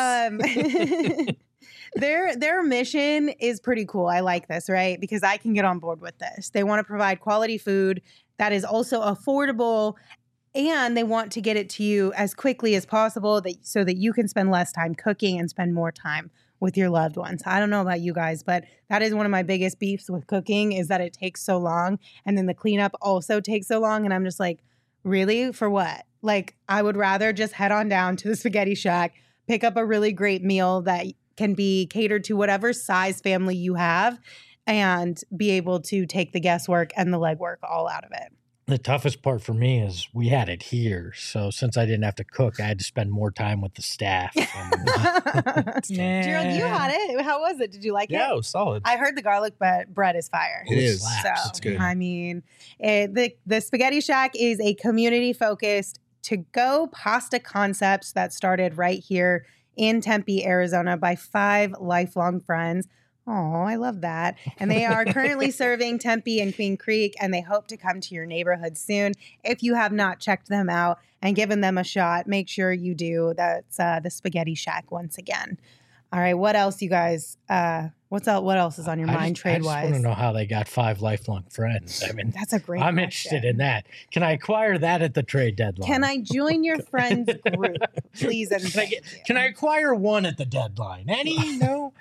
B: their mission is pretty cool. I like this, right? Because I can get on board with this. They want to provide quality food that is also affordable And they want to get it to you as quickly as possible so that you can spend less time cooking and spend more time with your loved ones. I don't know about you guys, but that is one of my biggest beefs with cooking is that it takes so long. And then the cleanup also takes so long. And I'm just like, really? For what? Like, I would rather just head on down to the Spaghetti Shack, pick up a really great meal that can be catered to whatever size family you have, and be able to take the guesswork and the legwork all out of it.
C: The toughest part for me is we had it here. So since I didn't have to cook, I had to spend more time with the staff.
B: Gerald, you had it. How was it? Did you like it?
D: Yeah, it was solid.
B: I heard the garlic bread is fire.
D: It is.
B: So,
D: It's good.
B: I mean, the Spaghetti Shack is a community-focused to-go pasta concept that started right here in Tempe, Arizona by 5 lifelong friends. Oh, I love that. And they are currently serving Tempe and Queen Creek, and they hope to come to your neighborhood soon. If you have not checked them out and given them a shot, make sure you do. That's the Spaghetti Shack once again. All right, what else, you guys? What else is on your mind trade-wise?
C: I just want to know how they got 5 lifelong friends. I mean,
B: that's a great
C: I'm
B: question.
C: interested in that. Can I acquire that at the trade deadline?
B: Can I join your friends group, please? And
C: can I acquire one at the deadline? Any? No?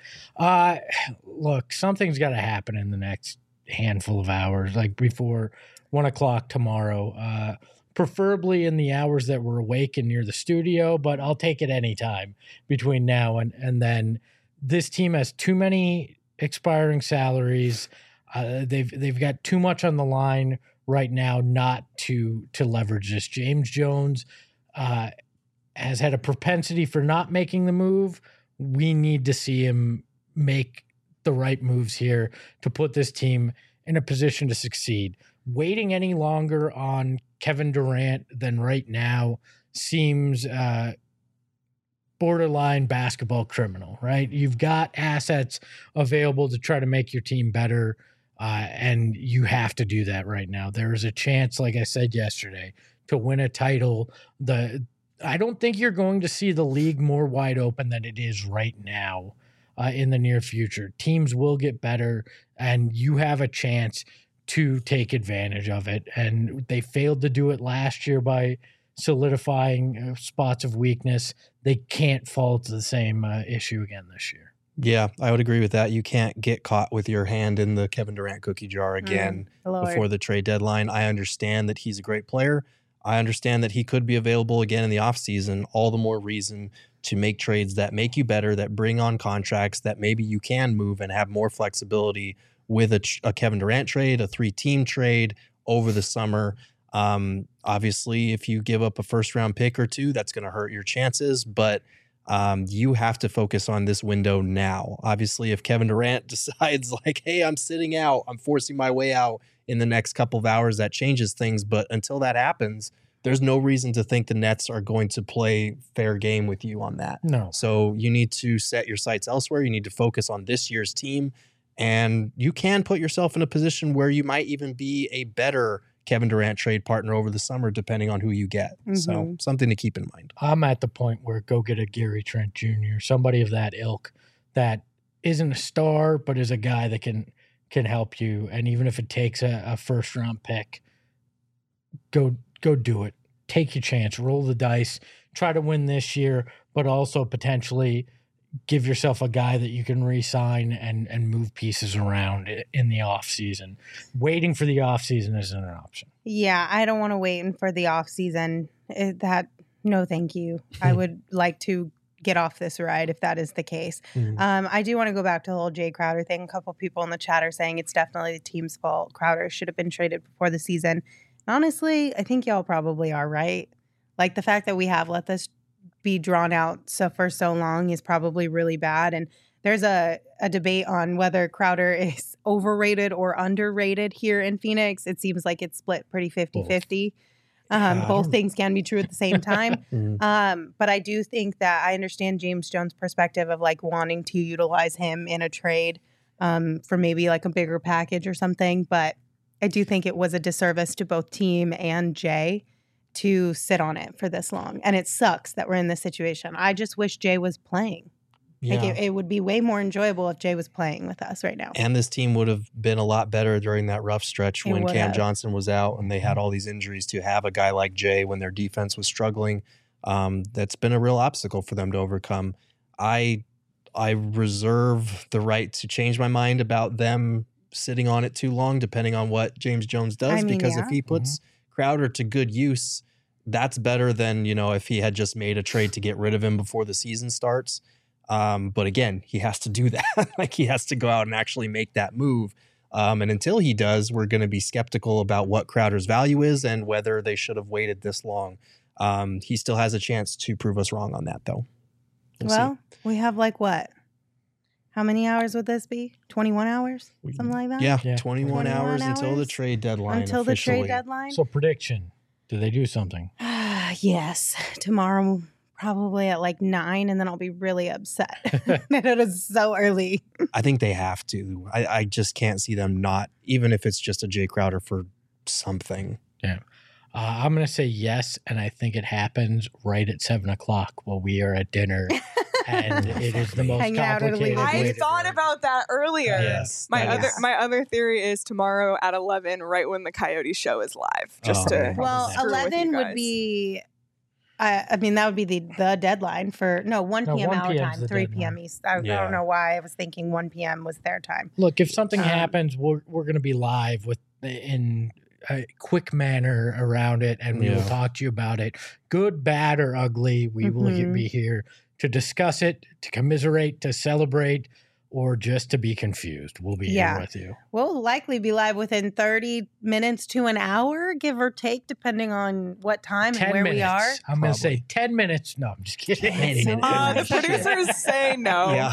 C: Look, something's got to happen in the next handful of hours, like before 1 o'clock tomorrow. Preferably in the hours that we're awake and near the studio, but I'll take it anytime between now and then. This team has too many expiring salaries. They've got too much on the line right now not to leverage this. James Jones has had a propensity for not making the move. We need to see him make the right moves here to put this team in a position to succeed. Waiting any longer on Kevin Durant than right now seems borderline basketball criminal, right? You've got assets available to try to make your team better, and you have to do that right now. There's a chance, like I said yesterday, to win a title. I don't think you're going to see the league more wide open than it is right now in the near future. Teams will get better, and you have a chance to take advantage of it. And they failed to do it last year by solidifying spots of weakness. They can't fall to the same issue again this year.
D: Yeah, I would agree with that. You can't get caught with your hand in the Kevin Durant cookie jar again before the trade deadline. I understand that he's a great player. I understand that he could be available again in the offseason. All the more reason to make trades that make you better, that bring on contracts that maybe you can move and have more flexibility with a Kevin Durant trade, a 3-team trade over the summer. Obviously, if you give up a first-round pick or 2, that's going to hurt your chances, but you have to focus on this window now. Obviously, if Kevin Durant decides like, hey, I'm sitting out, I'm forcing my way out in the next couple of hours, that changes things. But until that happens, there's no reason to think the Nets are going to play fair game with you on that.
C: No.
D: So you need to set your sights elsewhere. You need to focus on this year's team, and you can put yourself in a position where you might even be a better Kevin Durant trade partner over the summer, depending on who you get. Mm-hmm. So something to keep in mind.
C: I'm at the point where go get a Gary Trent Jr., somebody of that ilk that isn't a star, but is a guy that can help you. And even if it takes a first round pick, go do it. Take your chance, roll the dice, try to win this year, but also potentially give yourself a guy that you can re-sign and move pieces around in the offseason. Waiting for the offseason isn't an option.
B: Yeah, I don't want to wait for the offseason. No, thank you. I would like to get off this ride if that is the case. Mm-hmm. I do want to go back to the whole Jay Crowder thing. A couple people in the chat are saying it's definitely the team's fault. Crowder should have been traded before the season. Honestly, I think y'all probably are right. Like, the fact that we have let this be drawn out for so long is probably really bad. And there's a debate on whether Crowder is overrated or underrated here in Phoenix. It seems like it's split pretty 50-50. Both things can be true at the same time. But I do think that I understand James Jones' perspective of like wanting to utilize him in a trade for maybe like a bigger package or something. But I do think it was a disservice to both team and Jay to sit on it for this long. And it sucks that we're in this situation. I just wish Jay was playing. Like
D: Yeah.
B: it would be way more enjoyable if Jay was playing with us right now.
D: And this team would have been a lot better during that rough stretch
B: It
D: when
B: would
D: Cam
B: have.
D: Johnson was out and they had all these injuries. To have a guy like Jay when their defense was struggling, that's been a real obstacle for them to overcome. I reserve the right to change my mind about them sitting on it too long, depending on what James Jones does.
B: I mean,
D: Because
B: yeah.
D: if he puts Crowder to good use, that's better than, if he had just made a trade to get rid of him before the season starts. But again, he has to do that. Like, he has to go out and actually make that move. And until he does, we're going to be skeptical about what Crowder's value is and whether they should have waited this long. He still has a chance to prove us wrong on that, though. We'll
B: Well, we have like what? How many hours would this be? 21 hours? Something like that?
D: see. Yeah,
C: Yeah.
D: 21 hours until the
B: hours?
D: trade deadline.
B: Until the
D: officially.
B: trade deadline?
C: So prediction, do they do something?
B: Yes. Tomorrow, probably at like 9, and then I'll be really upset that it is so early.
D: I think they have to. I just can't see them not, even if it's just a Jay Crowder for something.
C: I'm going to say yes, and I think it happens right at 7:00 while we are at dinner, and it is the most
B: Hanging out at a
C: complicated.
B: league.
C: way
F: I
C: to
F: thought
C: do it.
F: about that earlier.
D: Yes.
F: My
D: that
F: other
D: is-
F: my other theory is tomorrow at 11, right when the Coyote show is live. Just
D: Oh.
F: to
B: Well,
C: Screw
F: with you
B: 11 would
F: guys.
B: be, I mean, that would be the deadline for, 1
C: No,
B: p.m.
C: 1
B: our
C: p.m. 's
B: time,
C: the
B: 3
C: deadline.
B: p.m. East. I
D: Yeah.
B: don't know why I was thinking 1 p.m. was their time.
C: Look, if something
B: Um,
C: happens, we're going to be live in a quick manner around it, and we will
D: Yeah.
C: talk to you about it, good, bad, or ugly. We will
B: Mhm.
C: be here to discuss it, to commiserate, to celebrate, or just to be confused. We'll be
B: Yeah.
C: here with you.
B: We'll likely be live within 30 minutes to an hour, give or take, depending on what time
C: 10
B: and where
C: minutes.
B: we are.
C: I'm going to say
D: Probably.
C: 10 minutes. No, I'm just kidding.
B: So
F: The producers say no.
D: Yeah.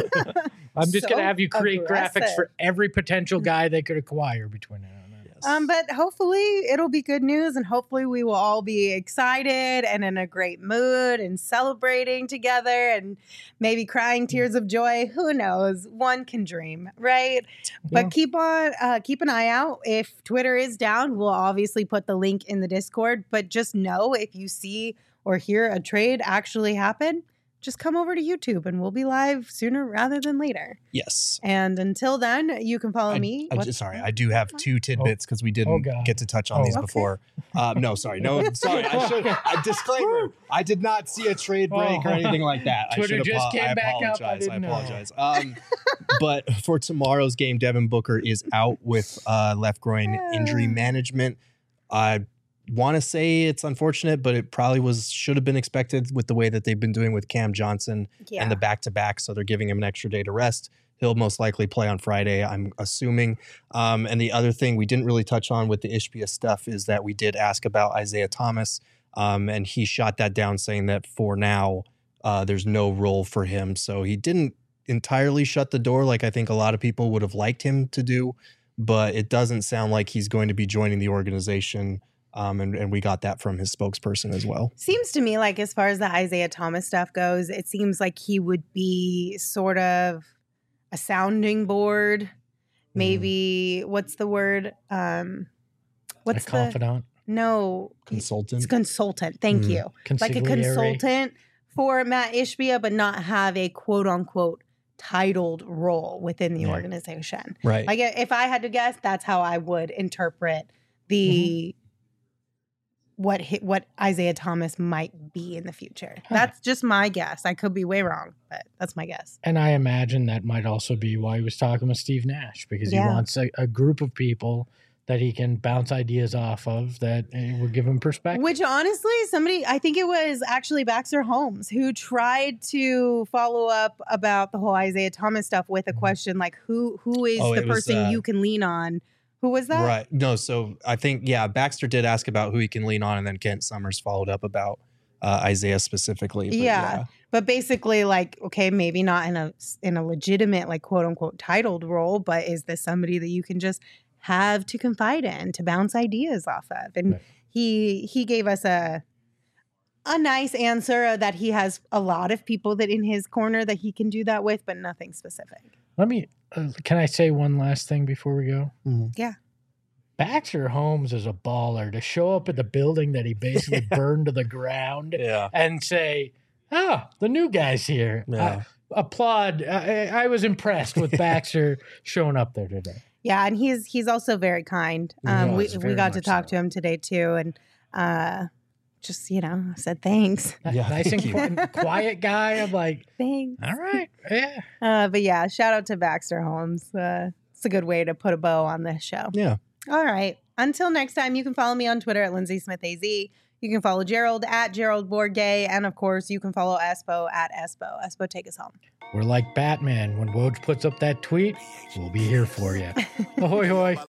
C: I'm just
B: So
C: going to have you create graphics
B: aggressive.
C: for every potential guy they could acquire between now and then.
B: But hopefully it'll be good news, and hopefully we will all be excited and in a great mood and celebrating together and maybe crying tears of joy. Who knows? One can dream, right? But keep an eye out. If Twitter is down, we'll obviously put the link in the Discord. But just know, if you see or hear a trade actually happen, just come over to YouTube and we'll be live sooner rather than later.
D: Yes.
B: And until then, you can follow me.
D: I do have 2 tidbits because we didn't
C: God.
D: get to touch on
C: Oh,
D: these
B: okay.
D: before. No, sorry. No, sorry. Disclaimer. I did not see a trade break or anything like that.
C: Twitter just came
D: I
C: back up. I
D: apologize.
C: didn't know.
D: apologize. But for tomorrow's game, Devin Booker is out with left groin injury management. I want to say it's unfortunate, but it probably should have been expected with the way that they've been doing with Cam Johnson and the back-to-back. So they're giving him an extra day to rest. He'll most likely play on Friday, I'm assuming. And the other thing we didn't really touch on with the Ishbia stuff is that we did ask about Isaiah Thomas, and he shot that down saying that for now, there's no role for him. So he didn't entirely shut the door like I think a lot of people would have liked him to do, but it doesn't sound like he's going to be joining the organization. And we got that from his spokesperson as well.
B: Seems to me like, as far as the Isaiah Thomas stuff goes, it seems like he would be sort of a sounding board. Maybe what's the word? What's
C: a confidant,
B: no
D: Consultant.
B: It's consultant. Thank
D: Mm.
B: you. Like a
C: consigliere.
B: consultant for Matt Ishbia, but not have a quote unquote titled role within the
C: Yeah.
B: organization.
D: Right.
B: Like, if I had to guess, that's how I would interpret the what Isaiah Thomas might be in the future.
C: Huh.
B: That's just my guess. I could be way wrong, but that's my guess.
C: And I imagine that might also be why he was talking with Steve Nash, because he
B: Yeah.
C: wants a group of people that he can bounce ideas off of that will give him perspective.
B: Which, honestly, I think it was actually Baxter Holmes who tried to follow up about the whole Isaiah Thomas stuff with a question like, who is
D: Oh,
B: the
D: it was,
B: person you can lean on? Who was that?
D: Right. No, so I think, Baxter did ask about who he can lean on, and then Kent Summers followed up about Isaiah specifically. But
B: Yeah. But basically, like, okay, maybe not in a legitimate, like, quote unquote titled role, but is this somebody that you can just have to confide in, to bounce ideas off of? And
C: Right.
B: he gave us a nice answer that he has a lot of people that in his corner that he can do that with, but nothing specific.
C: Let me, can I say one last thing before we go?
D: Mhm.
B: Yeah.
C: Baxter Holmes is a baller to show up at the building that he basically burned to the ground
D: Yeah.
C: and say, the new guy's here.
D: Yeah.
C: applaud. I was impressed with Baxter showing up there today.
B: Yeah, and he's also very kind. We got to talk to him today too, and just said thanks.
D: Yeah,
C: Nice and quiet guy. I'm like,
B: thanks.
C: all right, yeah.
B: But yeah, shout out to Baxter Holmes. It's a good way to put a bow on this show.
D: Yeah.
B: All right. Until next time, you can follow me on Twitter at Lindsay Smith AZ. You can follow Gerald at Gerald Bourgay. And of course, you can follow Espo at Espo. Espo, take us home.
C: We're like Batman. When Woj puts up that tweet, we'll be here for you. Ahoy, hoy.